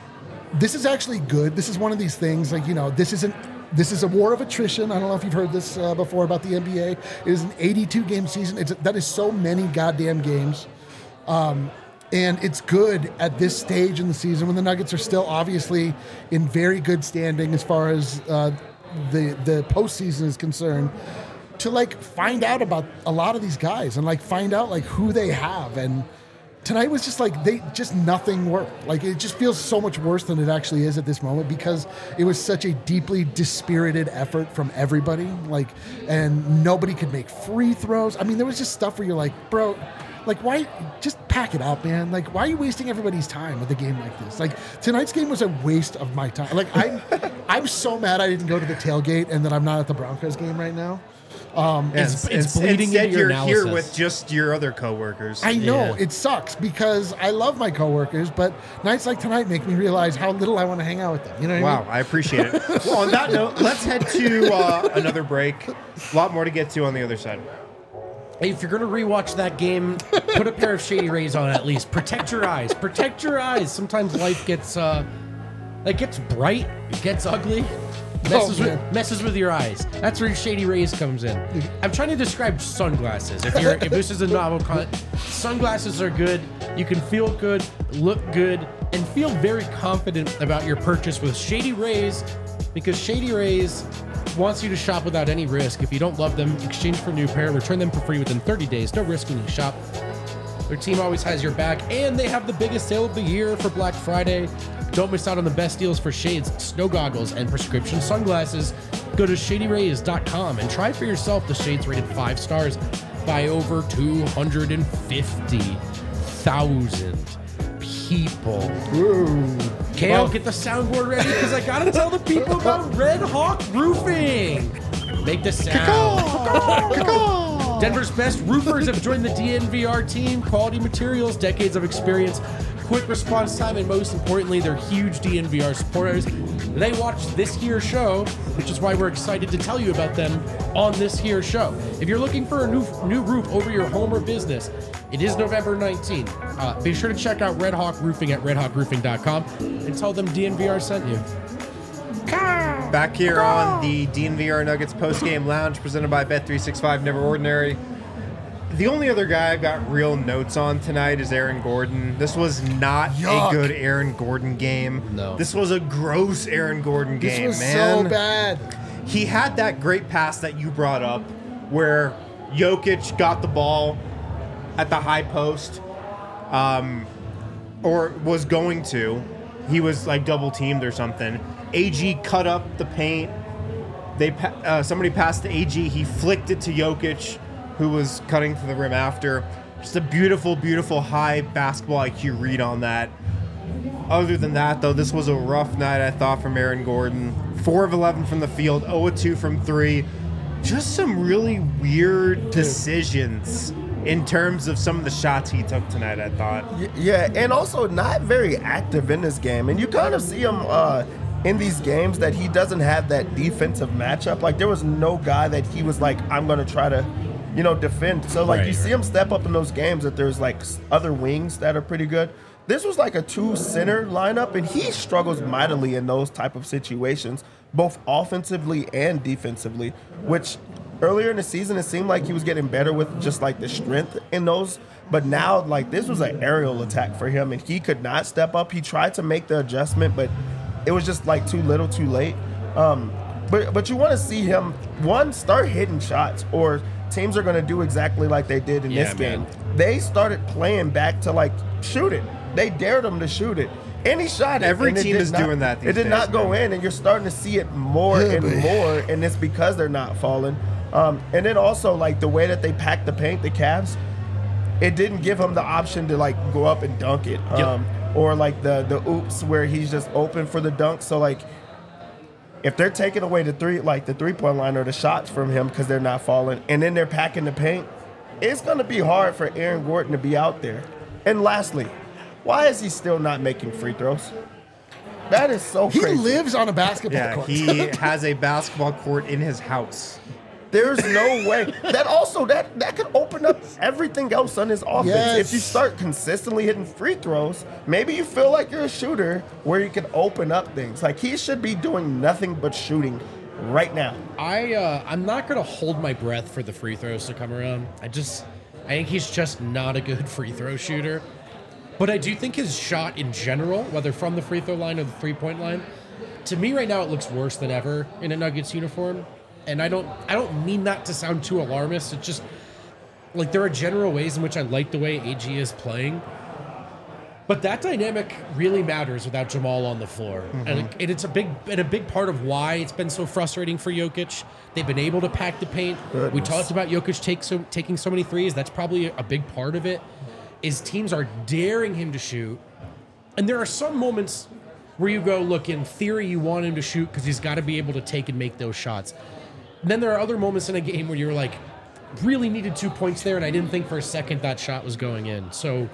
this is actually good. This is one of these things, like, you know, this isn't, this is a war of attrition. I don't know if you've heard this uh, before about the N B A. It is an eighty-two game season. It's, that is so many goddamn games. Um, and it's good at this stage in the season when the Nuggets are still obviously in very good standing as far as uh, the, the postseason is concerned, to like find out about a lot of these guys and like find out like who they have. And tonight was just like, they just nothing worked. Like it just feels so much worse than it actually is at this moment because it was such a deeply dispirited effort from everybody. Like, and nobody could make free throws. I mean, there was just stuff where you're like, bro, like why just pack it up, man? Like, why are you wasting everybody's time with a game like this? Like tonight's game was a waste of my time. Like I'm, I'm so mad I didn't go to the tailgate and that I'm not at the Broncos game right now. Um, It's- And it's bleeding instead, into your you're here analysis. with just your other coworkers. I know Yeah. it sucks because I love my coworkers, but nights like tonight make me realize how little I want to hang out with them. You know what I Wow, mean? I appreciate it. Well, on that note, let's head to uh, another break. A lot more to get to on the other side. Hey, if you're gonna rewatch that game, put a pair of Shady Rays on at least. Protect your eyes. Protect your eyes. Sometimes life gets uh, it gets bright, it gets ugly, messes, Oh, with, man. messes with your eyes. That's where Shady Rays comes in. I'm trying to describe sunglasses. If you're if this is a novel con, sunglasses are good. You can feel good, look good, and feel very confident about your purchase with Shady Rays, because Shady Rays wants you to shop without any risk. If you don't love them, exchange for a new pair, return them for free within thirty days. No risk when you shop. Their team always has your back, and they have the biggest sale of the year for Black Friday. Don't miss out on the best deals for shades, snow goggles, and prescription sunglasses. Go to shady rays dot com and try for yourself the shades rated five stars by over two hundred fifty thousand people. Ooh. Kale, get the soundboard ready because I gotta tell the people about Red Hawk Roofing. Make the sound. Denver's best roofers have joined the D N V R team. Quality materials, decades of experience, quick response time, and most importantly, they're huge D N V R supporters. They watch this here show, which is why we're excited to tell you about them on this here show. If you're looking for a new new roof over your home or business, it is November nineteenth. Uh, be sure to check out Red Hawk Roofing at red hawk roofing dot com and tell them D N V R sent you. Back here on the D N V R Nuggets postgame lounge presented by Bet three sixty-five Never Ordinary. The only other guy I've got real notes on tonight is Aaron Gordon. This was not Yuck. a good Aaron Gordon game. No. This was a gross Aaron Gordon This game, was man. so bad. He had that great pass that you brought up where Jokic got the ball at the high post, um, or was going to. He was like double teamed or something. A G cut up the paint. They pa- uh, somebody passed to A G. He flicked it to Jokic, who was cutting to the rim after. Just a beautiful, beautiful high basketball I Q read on that. Other than that, though, this was a rough night, I thought, from Aaron Gordon. four of eleven from the field, zero of two from three. Just some really weird decisions in terms of some of the shots he took tonight, I thought. Y- Yeah, and also not very active in this game. And you kind of see him uh, in these games that he doesn't have that defensive matchup. Like, there was no guy that he was like, I'm going to try to, you know, defend. So, like, Right, you see right. him step up in those games that there's, like, s- other wings that are pretty good. This was like a two-center lineup, and he struggles mightily in those type of situations, both offensively and defensively, which earlier in the season, it seemed like he was getting better with just, like, the strength in those. But now, like, this was an aerial attack for him, and he could not step up. He tried to make the adjustment, but it was just, like, too little, too late. Um, but, but you want to see him, one, start hitting shots, or teams are going to do exactly like they did in Yeah, this game. man. They started playing back to, like, shoot it. They dared him to shoot it. And he shot it. Every and it team did is not- doing that these It did days, not go man. in, and you're starting to see it more Yeah, and but- more, and it's because they're not falling. Um, and then also, like, the way that they packed the paint, the Cavs, it didn't give him the option to, like, go up and dunk it. Um, or, like, the, the oops where he's just open for the dunk. So, like, if they're taking away the three, like, the three-point line or the shots from him because they're not falling, and then they're packing the paint, it's going to be hard for Aaron Gordon to be out there. And lastly, why is he still not making free throws? That is so He crazy. lives on a basketball Yeah, court. he has a basketball court in his house. There's no way. That also that that could open up everything else on his offense. Yes. If you start consistently hitting free throws, maybe you feel like you're a shooter where you can open up things. Like, he should be doing nothing but shooting right now. I uh, I'm not gonna hold my breath for the free throws to come around. I just I think he's just not a good free throw shooter. But I do think his shot in general, whether from the free throw line or the three point line, to me right now it looks worse than ever in a Nuggets uniform. And I don't I don't mean that to sound too alarmist. It's just like there are general ways in which I like the way A G is playing. But that dynamic really matters without Jamal on the floor, Mm-hmm. and, it, and it's a big and a big part of why it's been so frustrating for Jokic. They've been able to pack the paint. We Goodness. talked about Jokic take so, taking so many threes. That's probably a big part of it. Is teams are daring him to shoot, and there are some moments where you go, look, in theory, you want him to shoot because he's got to be able to take and make those shots. And then there are other moments in a game where you're like, really needed two points there, and I didn't think for a second that shot was going in. So.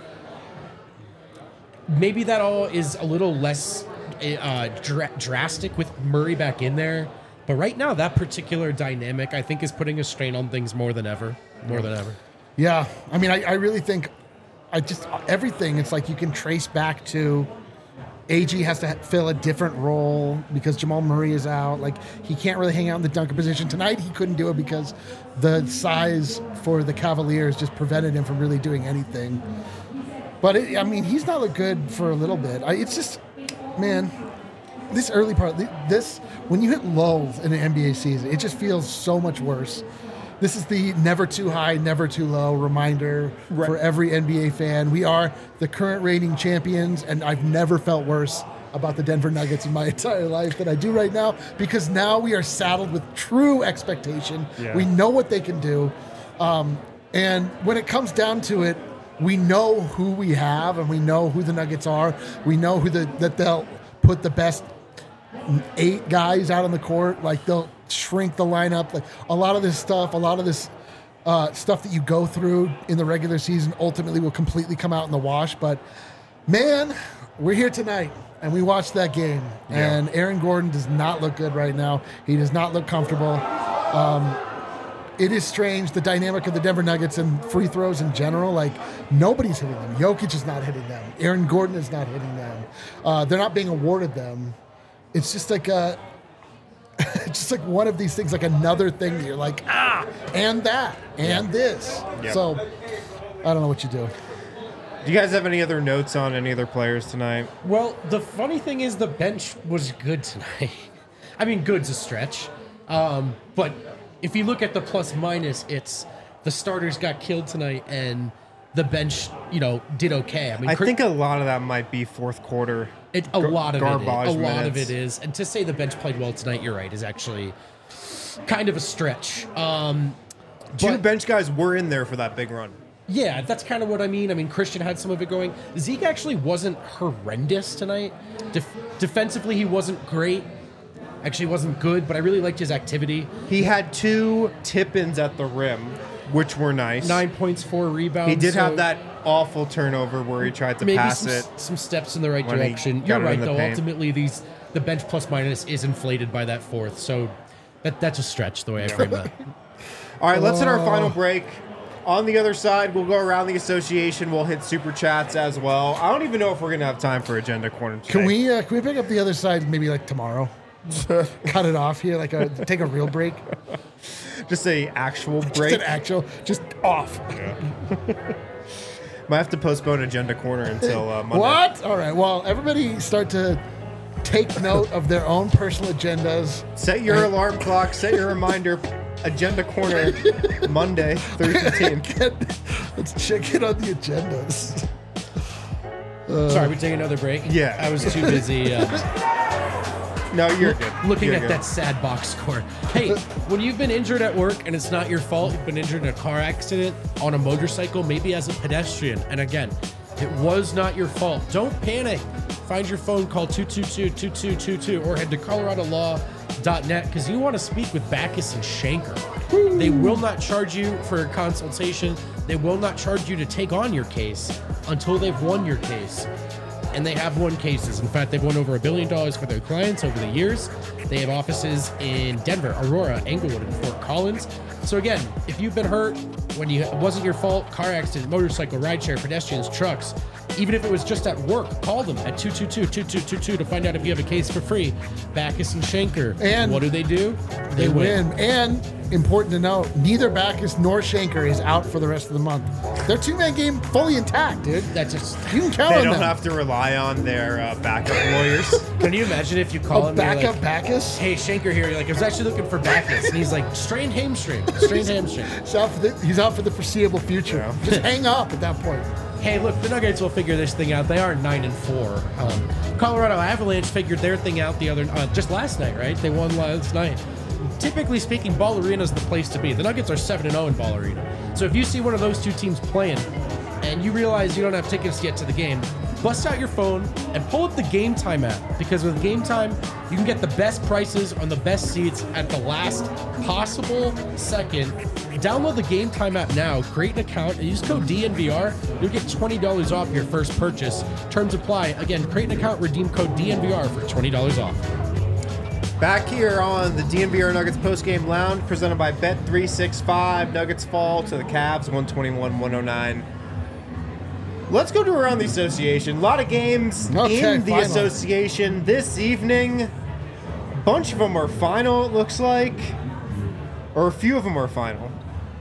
Maybe that all is a little less uh, dra- drastic with Murray back in there. But right now, that particular dynamic, I think, is putting a strain on things more than ever. More than ever. Yeah, I mean, I, I really think, I just everything. It's like you can trace back to A G has to ha- fill a different role because Jamal Murray is out. Like, he can't really hang out in the dunker position tonight. He couldn't do it because the size for the Cavaliers just prevented him from really doing anything. But it, I mean, he's not looked good for a little bit. I, it's just, man, this early part, this when you hit lulls in an N B A season, it just feels so much worse. This is the never too high, never too low reminder Right. for every N B A fan. We are the current reigning champions, and I've never felt worse about the Denver Nuggets in my entire life than I do right now, because now we are saddled with true expectation. Yeah. We know what they can do. Um, and when it comes down to it, we know who we have, and we know who the Nuggets are. We know who the that they'll put the best eight guys out on the court. Like, they'll shrink the lineup. Like, a lot of this stuff, a lot of this uh, stuff that you go through in the regular season ultimately will completely come out in the wash. But Man, we're here tonight, and we watched that game, and Aaron Gordon does not look good right now. He does not look comfortable. Um, it is strange, the dynamic of the Denver Nuggets and free throws in general. Like, nobody's hitting them. Jokic is not hitting them. Aaron Gordon is not hitting them. Uh, they're not being awarded them. It's just like a, just like one of these things, like another thing that you're like, ah, and that, and yeah. this. Yep. So, I don't know what you do. Do you guys have any other notes on any other players tonight? Well, the funny thing is the bench was good tonight. I mean, good's a stretch. Um, but if you look at the plus minus, it's the starters got killed tonight and the bench, you know, did okay. I mean, I think a lot of that might be fourth quarter. It, a lot of it, is, a lot minutes. of it is, and to say the bench played well tonight, you're right, is actually kind of a stretch. Um, Two but, bench guys were in there for that big run. Yeah, that's kind of what I mean. I mean, Christian had some of it going. Zeke actually wasn't horrendous tonight. Def- defensively, he wasn't great. Actually, he wasn't good, but I really liked his activity. He had two tip-ins at the rim, which were nice. Nine points, four rebounds. He did so have that awful turnover where he tried to maybe pass some, it. some steps in the right when he direction. got You're it in right, the though. paint. Ultimately, these the bench plus minus is inflated by that fourth, so that that's a stretch the way I frame that. All right, let's hit our final break. On the other side, we'll go around the association. We'll hit super chats as well. I don't even know if we're gonna have time for agenda corner today. Can we uh, can we pick up the other side maybe like tomorrow? Cut it off here, like a take a real break. Just a actual break. Just an actual, just off. Might have to postpone agenda corner until uh, Monday. What? All right. Well, everybody start to take note of their own personal agendas. Set your alarm clock. Set your reminder. Agenda corner Monday, through fifteenth. Let's check it on the agendas. Uh, Sorry, we take another break. Yeah, I was too busy. Uh, no, you're good. Looking you're at good. that sad box score. Hey, when you've been injured at work and it's not your fault, you've been injured in a car accident, on a motorcycle, maybe as a pedestrian, and again, it was not your fault. Don't panic. Find your phone, call two two two, two two two two, or head to colorado law dot net because you want to speak with Backus and Shanker. Woo. They will not charge you for a consultation. They will not charge you to take on your case until they've won your case. And they have won cases. In fact, they've won over a billion dollars for their clients over the years. They have offices in Denver, Aurora, Englewood, and Fort Collins. So again, if you've been hurt when you it wasn't your fault, car accident, motorcycle, rideshare, pedestrians, trucks, even if it was just at work, call them at two two two, two two two two to find out if you have a case for free. Backus and Shanker. And what do they do? They, they win. win. And important to note, neither Backus nor Shanker is out for the rest of the month. Their two-man game fully intact, dude. That's just you can count they on don't them. have to rely on their uh, backup lawyers. Can you imagine if you call oh, him backup like, Backus? Hey, Shanker here. You're like, I was actually looking for Backus, and he's like, strained hamstring, strained hamstring. He's out for the, he's out for the foreseeable future. Yeah. Just hang up at that point. Hey, look, the Nuggets will figure this thing out. They are nine and four. Um, Colorado Avalanche figured their thing out the other uh, just last night, right? They won last night. Typically speaking, Ball Arena is the place to be. The Nuggets are seven and zero in Ball Arena. So if you see one of those two teams playing, and you realize you don't have tickets yet to the game, bust out your phone and pull up the Game Time app, because with Game Time, you can get the best prices on the best seats at the last possible second. Download the Game Time app now, create an account, and use code D N V R. You'll get twenty dollars off your first purchase. Terms apply. Again, create an account, redeem code D N V R for twenty dollars off. Back here on the D N V R Nuggets postgame lounge, presented by Bet three sixty-five. Nuggets fall to the Cavs, one twenty-one one oh nine. Let's go to around the association. A lot of games okay, in the final. association this evening. A bunch of them are final, it looks like. Or a few of them are final.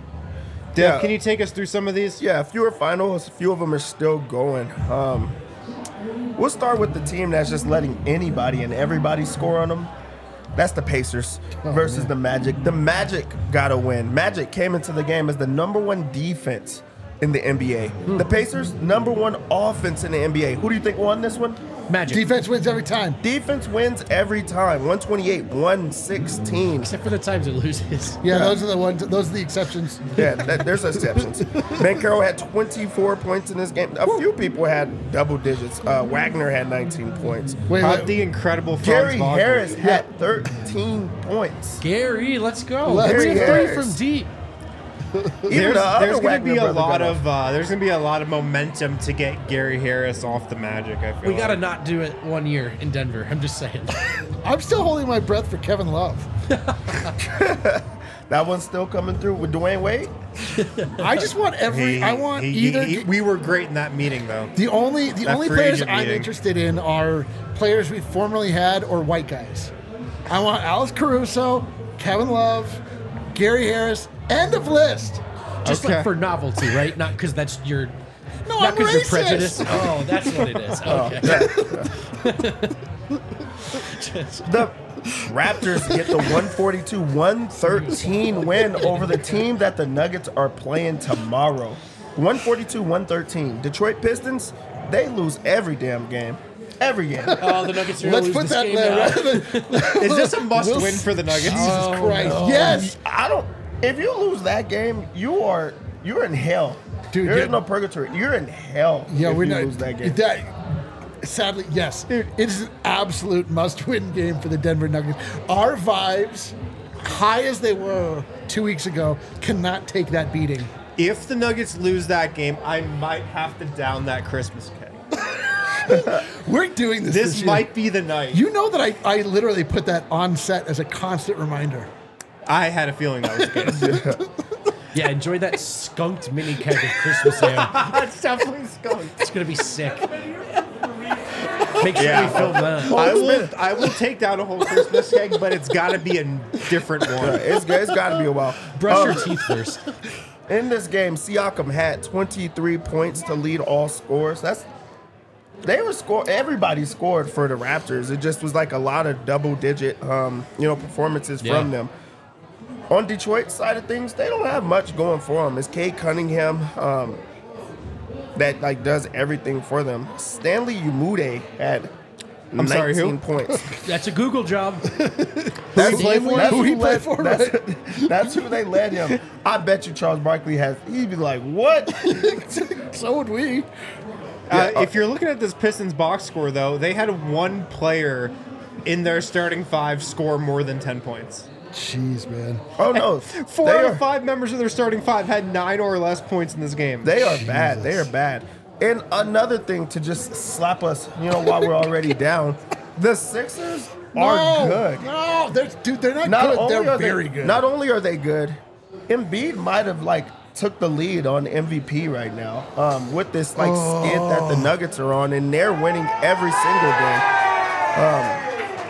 Dev, Yeah. can you take us through some of these? Yeah, a few are finals, a few of them are still going. Um, we'll start with the team that's just letting anybody and everybody score on them. That's the Pacers Oh, versus man. the Magic. The Magic got a win. Magic came into the game as the number one defense in the N B A. The Pacers, number one offense in the N B A. Who do you think won this one? Magic. Defense wins every time. Defense wins every time. one twenty-eight, one sixteen. Except for the times it loses. Yeah, Yeah. those are the ones. Those are the exceptions. Yeah, that, there's exceptions. Bankero had twenty-four points in this game. A few people had double digits. Uh, Wagner had nineteen points. Wait, How wait. the incredible Franz Gary Wagner. Harris had thirteen points. Gary, let's go. Let's Three go. three from deep. There's, the other there's going to Wagner be a brother lot got of uh, there's going to be a lot of momentum to get Gary Harris off the Magic. I feel We got to like. not do it one year in Denver. I'm just saying. I'm still holding my breath for Kevin Love. That one's still coming through with Dwayne Wade. I just want every. He- I want he- either. he- we were great in that meeting, though. the only the that only free players agent I'm meeting. interested in are players we formerly had or white guys. I want Alex Caruso, Kevin Love, Gary Harris. End of list. Just Okay. like for novelty, right? Not because that's your. No, Not I'm because you're racist. prejudiced. Oh, that's what it is. Okay. The Raptors get the one forty-two one thirteen win over the team that the Nuggets are playing tomorrow. one forty-two one thirteen. Detroit Pistons, they lose every damn game. Every game. Oh, the Nuggets are Let's going to lose put this that game there. now. Rather than, Is this a must We'll win s- for the Nuggets? Jesus Oh, Christ! no. Yes. I don't. If you lose that game, you are you're in hell. Dude, There's yeah. no purgatory. You're in hell. Yeah, if we're you not. lose that game. That, sadly, yes, it is an absolute must-win game for the Denver Nuggets. Our vibes, high as they were two weeks ago, cannot take that beating. If the Nuggets lose that game, I might have to down that Christmas cake. We're doing this. This, This year. might be the night. You know that I, I literally put that on set as a constant reminder. I had a feeling that was the case. Yeah, enjoy that skunked mini keg of Christmas ale. That's definitely skunked. It's going to be sick. Make sure Yeah. we film that. I will. I will take down a whole Christmas cake, but it's got to be a different one. It's, it's got to be a while. Brush Um, your teeth first. In this game, Siakam had twenty-three points to lead all scores. That's they were score. Everybody scored for the Raptors. It just was like a lot of double-digit, um, you know, performances Yeah. from them. On Detroit's side of things, they don't have much going for them. It's Cade Cunningham um, that like does everything for them. Stanley Umude had I'm sorry, who? nineteen points. That's a Google job. That's, play for? that's Who he who play led- for, That's, that's who they led him. I bet you Charles Barkley has. He'd be like, "What?" So would we. Uh, if you're looking at this Pistons box score, though, they had one player in their starting five score more than ten points. Jeez, man. Oh no, Four they out are, of five members of their starting five had nine or less points in this game. they are bad. They Jesus. are bad. And another thing to just slap us, you know, while we're already down, the Sixers are no, good. No, they're, dude, they're not, Not good. only They're are very they, good. Not only are they good, Embiid might have like took the lead on M V P right now um, with this like skid that the Nuggets are on, and they're winning every single game.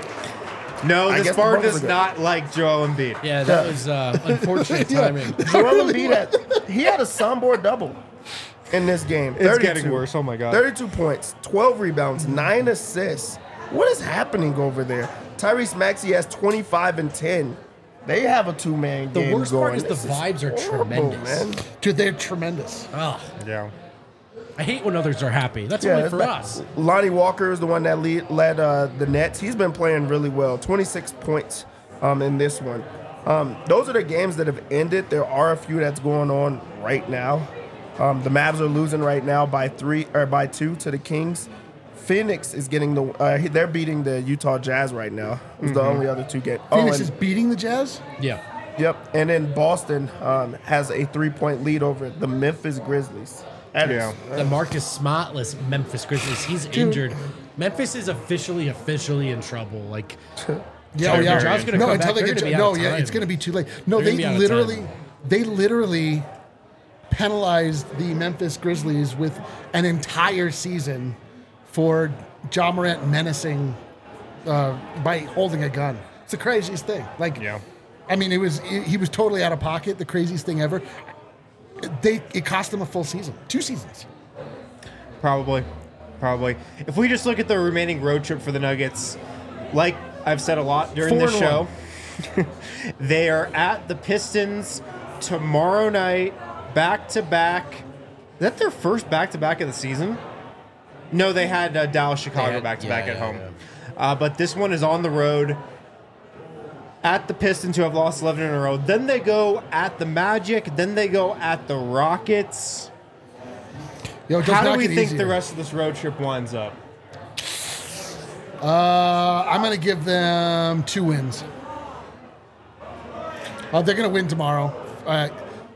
no, I the guess the Spartans Bucks are does good. not like Joel Embiid. Yeah, that was uh, unfortunate timing. Joel Embiid had he had a soundboard double in this game. It's getting worse. Oh my God. thirty-two points, twelve rebounds, nine assists. What is happening over there? Tyrese Maxey has twenty-five and ten. They have a two-man The game worst going. part is the This vibes are horrible, tremendous. man. Dude, they're tremendous. Oh, Yeah. I hate when others are happy. That's Yeah, only it's for ba- us. Lonnie Walker is the one that lead, led uh, the Nets. He's been playing really well. twenty-six points um, in this one. Um, those are the games that have ended. There are a few that's going on right now. Um, the Mavs are losing right now by three or by two to the Kings. Phoenix is getting the. Uh, they're beating the Utah Jazz right now. It's the only other two games. Phoenix and, is beating the Jazz? Yeah. Yep, and then Boston um, has a three-point lead over the Memphis Grizzlies. That is- Yeah. The Marcus Smartless Memphis Grizzlies. He's injured. Memphis is officially, officially in trouble. Like, Yeah, Sure, yeah. John's gonna no, come until back, they they're get gonna be no, out of yeah, time. it's going to be too late. No, They're gonna they be out of literally, time. they literally penalized the Memphis Grizzlies with an entire season for Ja Morant menacing uh, by holding a gun. It's the craziest thing. Like, Yeah. I mean, it was he was totally out of pocket. The craziest thing ever. They it cost them a full season, two seasons. Probably. Probably. If we just look at the remaining road trip for the Nuggets, like I've said a lot during Four this and show, they are at the Pistons tomorrow night, back to back. Is that their first back to back of the season? No, they had uh, Dallas, Chicago had- back to back yeah, at yeah, home. yeah. Uh, but this one is on the road at the Pistons, who have lost eleven in a row. Then they go at the Magic. Then they go at the Rockets. Yo, it does How do not we get think easier. the rest of this road trip winds up? Uh, I'm going to give them two wins. Uh, they're going to win tomorrow. Uh,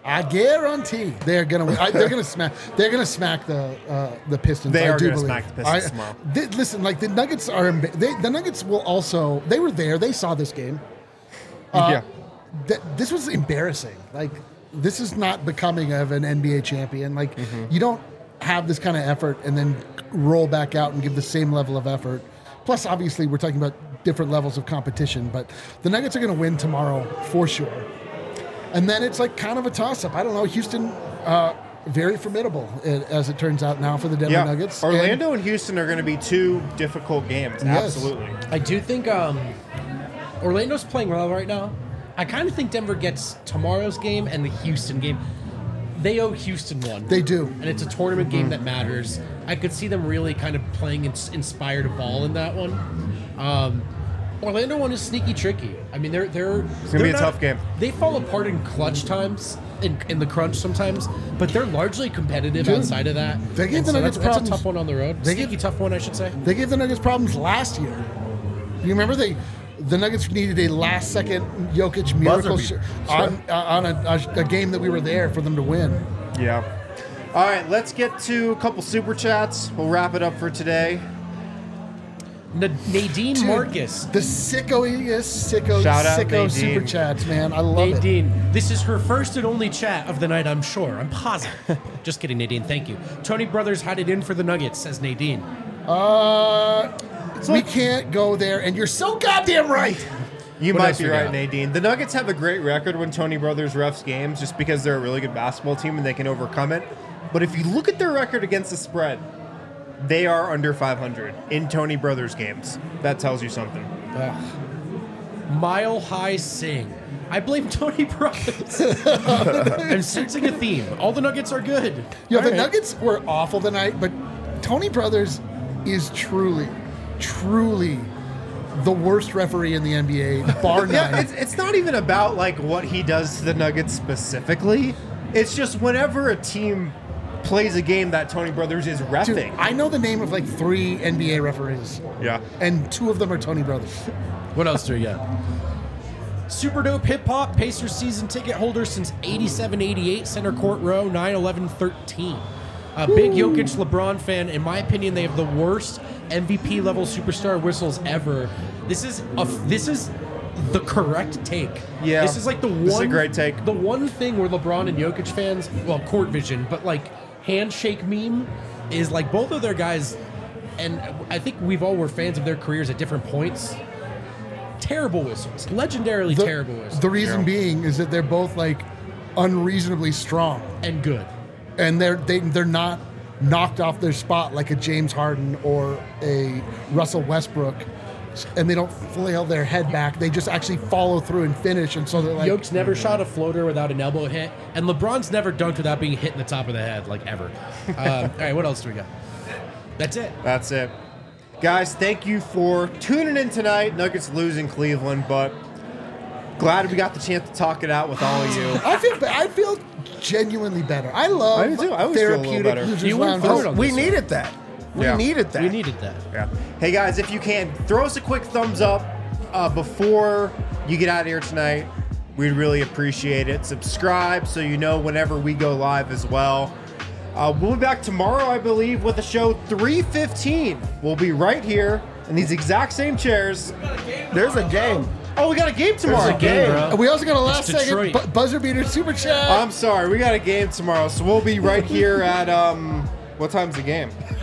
I guarantee they're gonna win. I, they're gonna smack. They're gonna smack the uh, the Pistons. They I are do gonna believe. smack the Pistons I- tomorrow. they- listen, like the Nuggets are. emba- They, the Nuggets will also. They were there. They saw this game. Uh, yeah. th- this was embarrassing. Like this is not becoming of an N B A champion. Like Mm-hmm. you don't have this kind of effort and then roll back out and give the same level of effort. Plus, obviously, we're talking about different levels of competition. But the Nuggets are going to win tomorrow for sure. And then it's like kind of a toss-up. I don't know. Houston, uh, very formidable uh, as it turns out now for the Denver Yeah. Nuggets. Orlando and Houston are going to be two difficult games. Yes. Absolutely. I do think um, Orlando's playing well right now. I kind of think Denver gets tomorrow's game and the Houston game. They owe Houston one. They do. And it's a tournament game that matters. I could see them really kind of playing ins- inspired ball in that one. Um, Orlando one is sneaky tricky. I mean, they're they're. It's gonna be a tough game. They fall apart in clutch times, in, in the crunch sometimes, but they're largely competitive Dude, outside of that. they gave And the so Nuggets that's, that's a problems. tough one on the road. They Sneaky gave- tough one, I should say. They gave the Nuggets problems last year. You remember they, the Nuggets needed a last-second Jokic miracle beater. sh- on uh, on a, a, a game that we were there for them to win. Yeah. All right, let's get to a couple super chats. We'll wrap it up for today. N- Nadine Dude, Marcus. the sickoiest sicko Shout out sicko Nadine. super chats, man. I love it. Nadine, this is her first and only chat of the night, I'm sure. I'm positive. Just kidding, Nadine. Thank you. Tony Brothers had it in for the Nuggets, says Nadine. Uh, we can't go there, and you're so goddamn right. You What might else be we right, got? Nadine. The Nuggets have a great record when Tony Brothers refs games just because they're a really good basketball team and they can overcome it. But if you look at their record against the spread, they are under five hundred in Tony Brothers games. That tells you something. Mile High Sing. I blame Tony Brothers. I'm sensing a theme. All the Nuggets are good. Yo, All the right. Nuggets were awful tonight, but Tony Brothers is truly, truly the worst referee in the N B A, bar Yeah, none. it's, it's not even about like what he does to the Nuggets specifically. It's just whenever a team plays a game that Tony Brothers is Dude, reffing. I know the name of like three N B A referees, yeah. and two of them are Tony Brothers. What else do we got? Super Dope Hip Hop, Pacers season ticket holder since eighty-seven eighty-eight, center court row, nine eleven thirteen. A big Jokic LeBron fan. In my opinion, they have the worst M V P level superstar whistles ever. This is a, this is the correct take. Yeah. This is like the one This is a great take. The one thing where LeBron and Jokic fans, well, court vision, but like handshake meme is like both of their guys, and I think we've all were fans of their careers at different points. Terrible whistles, legendarily The, terrible whistles, the reason Yeah. being is that they're both like unreasonably strong, and good. and they're they, they're not knocked off their spot like a James Harden or a Russell Westbrook, and they don't flail their head back. They just actually follow through and finish, and so they're like, Jokic never shot a floater without an elbow hit, and LeBron's never dunked without being hit in the top of the head, like ever. Uh, all right, what else do we got? That's it. That's it. Guys, thank you for tuning in tonight. Nuggets lose in Cleveland, but glad we got the chance to talk it out with all of you. I feel ba- I feel genuinely better. I love I do too. I always feel a little therapeutic better. losers You went lounge. forward on We this one. needed that. We Yeah. needed that. We needed that. Yeah. Hey guys, if you can, throw us a quick thumbs up uh, before you get out of here tonight. We'd really appreciate it. Subscribe so you know whenever we go live as well. Uh, we'll be back tomorrow, I believe, with a show three fifteen. We'll be right here in these exact same chairs. There's a game. Oh, we got a game tomorrow. There's a game, bro. And we also got a last It's second Detroit. bu- buzzer beater super chat. I'm sorry, we got a game tomorrow, so we'll be right here at um. What time's the game? It's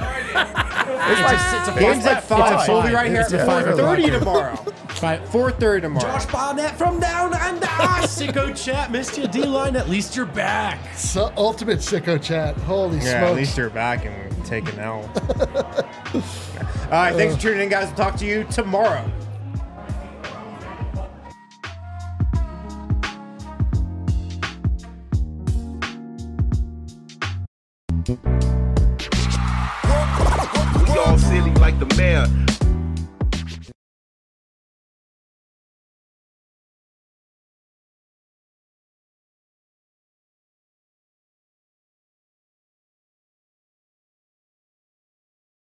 like it's a Game's at at five, five. so we'll be right here It's at at four five. thirty tomorrow. Five. four thirty tomorrow. Josh Barnett from down under. Sicko chat, missed you. D-line, at least you're back. So, ultimate sicko chat. Holy Yeah, smokes. at least you're back and we're taking out. All right, thanks for tuning in, guys. We'll talk to you tomorrow.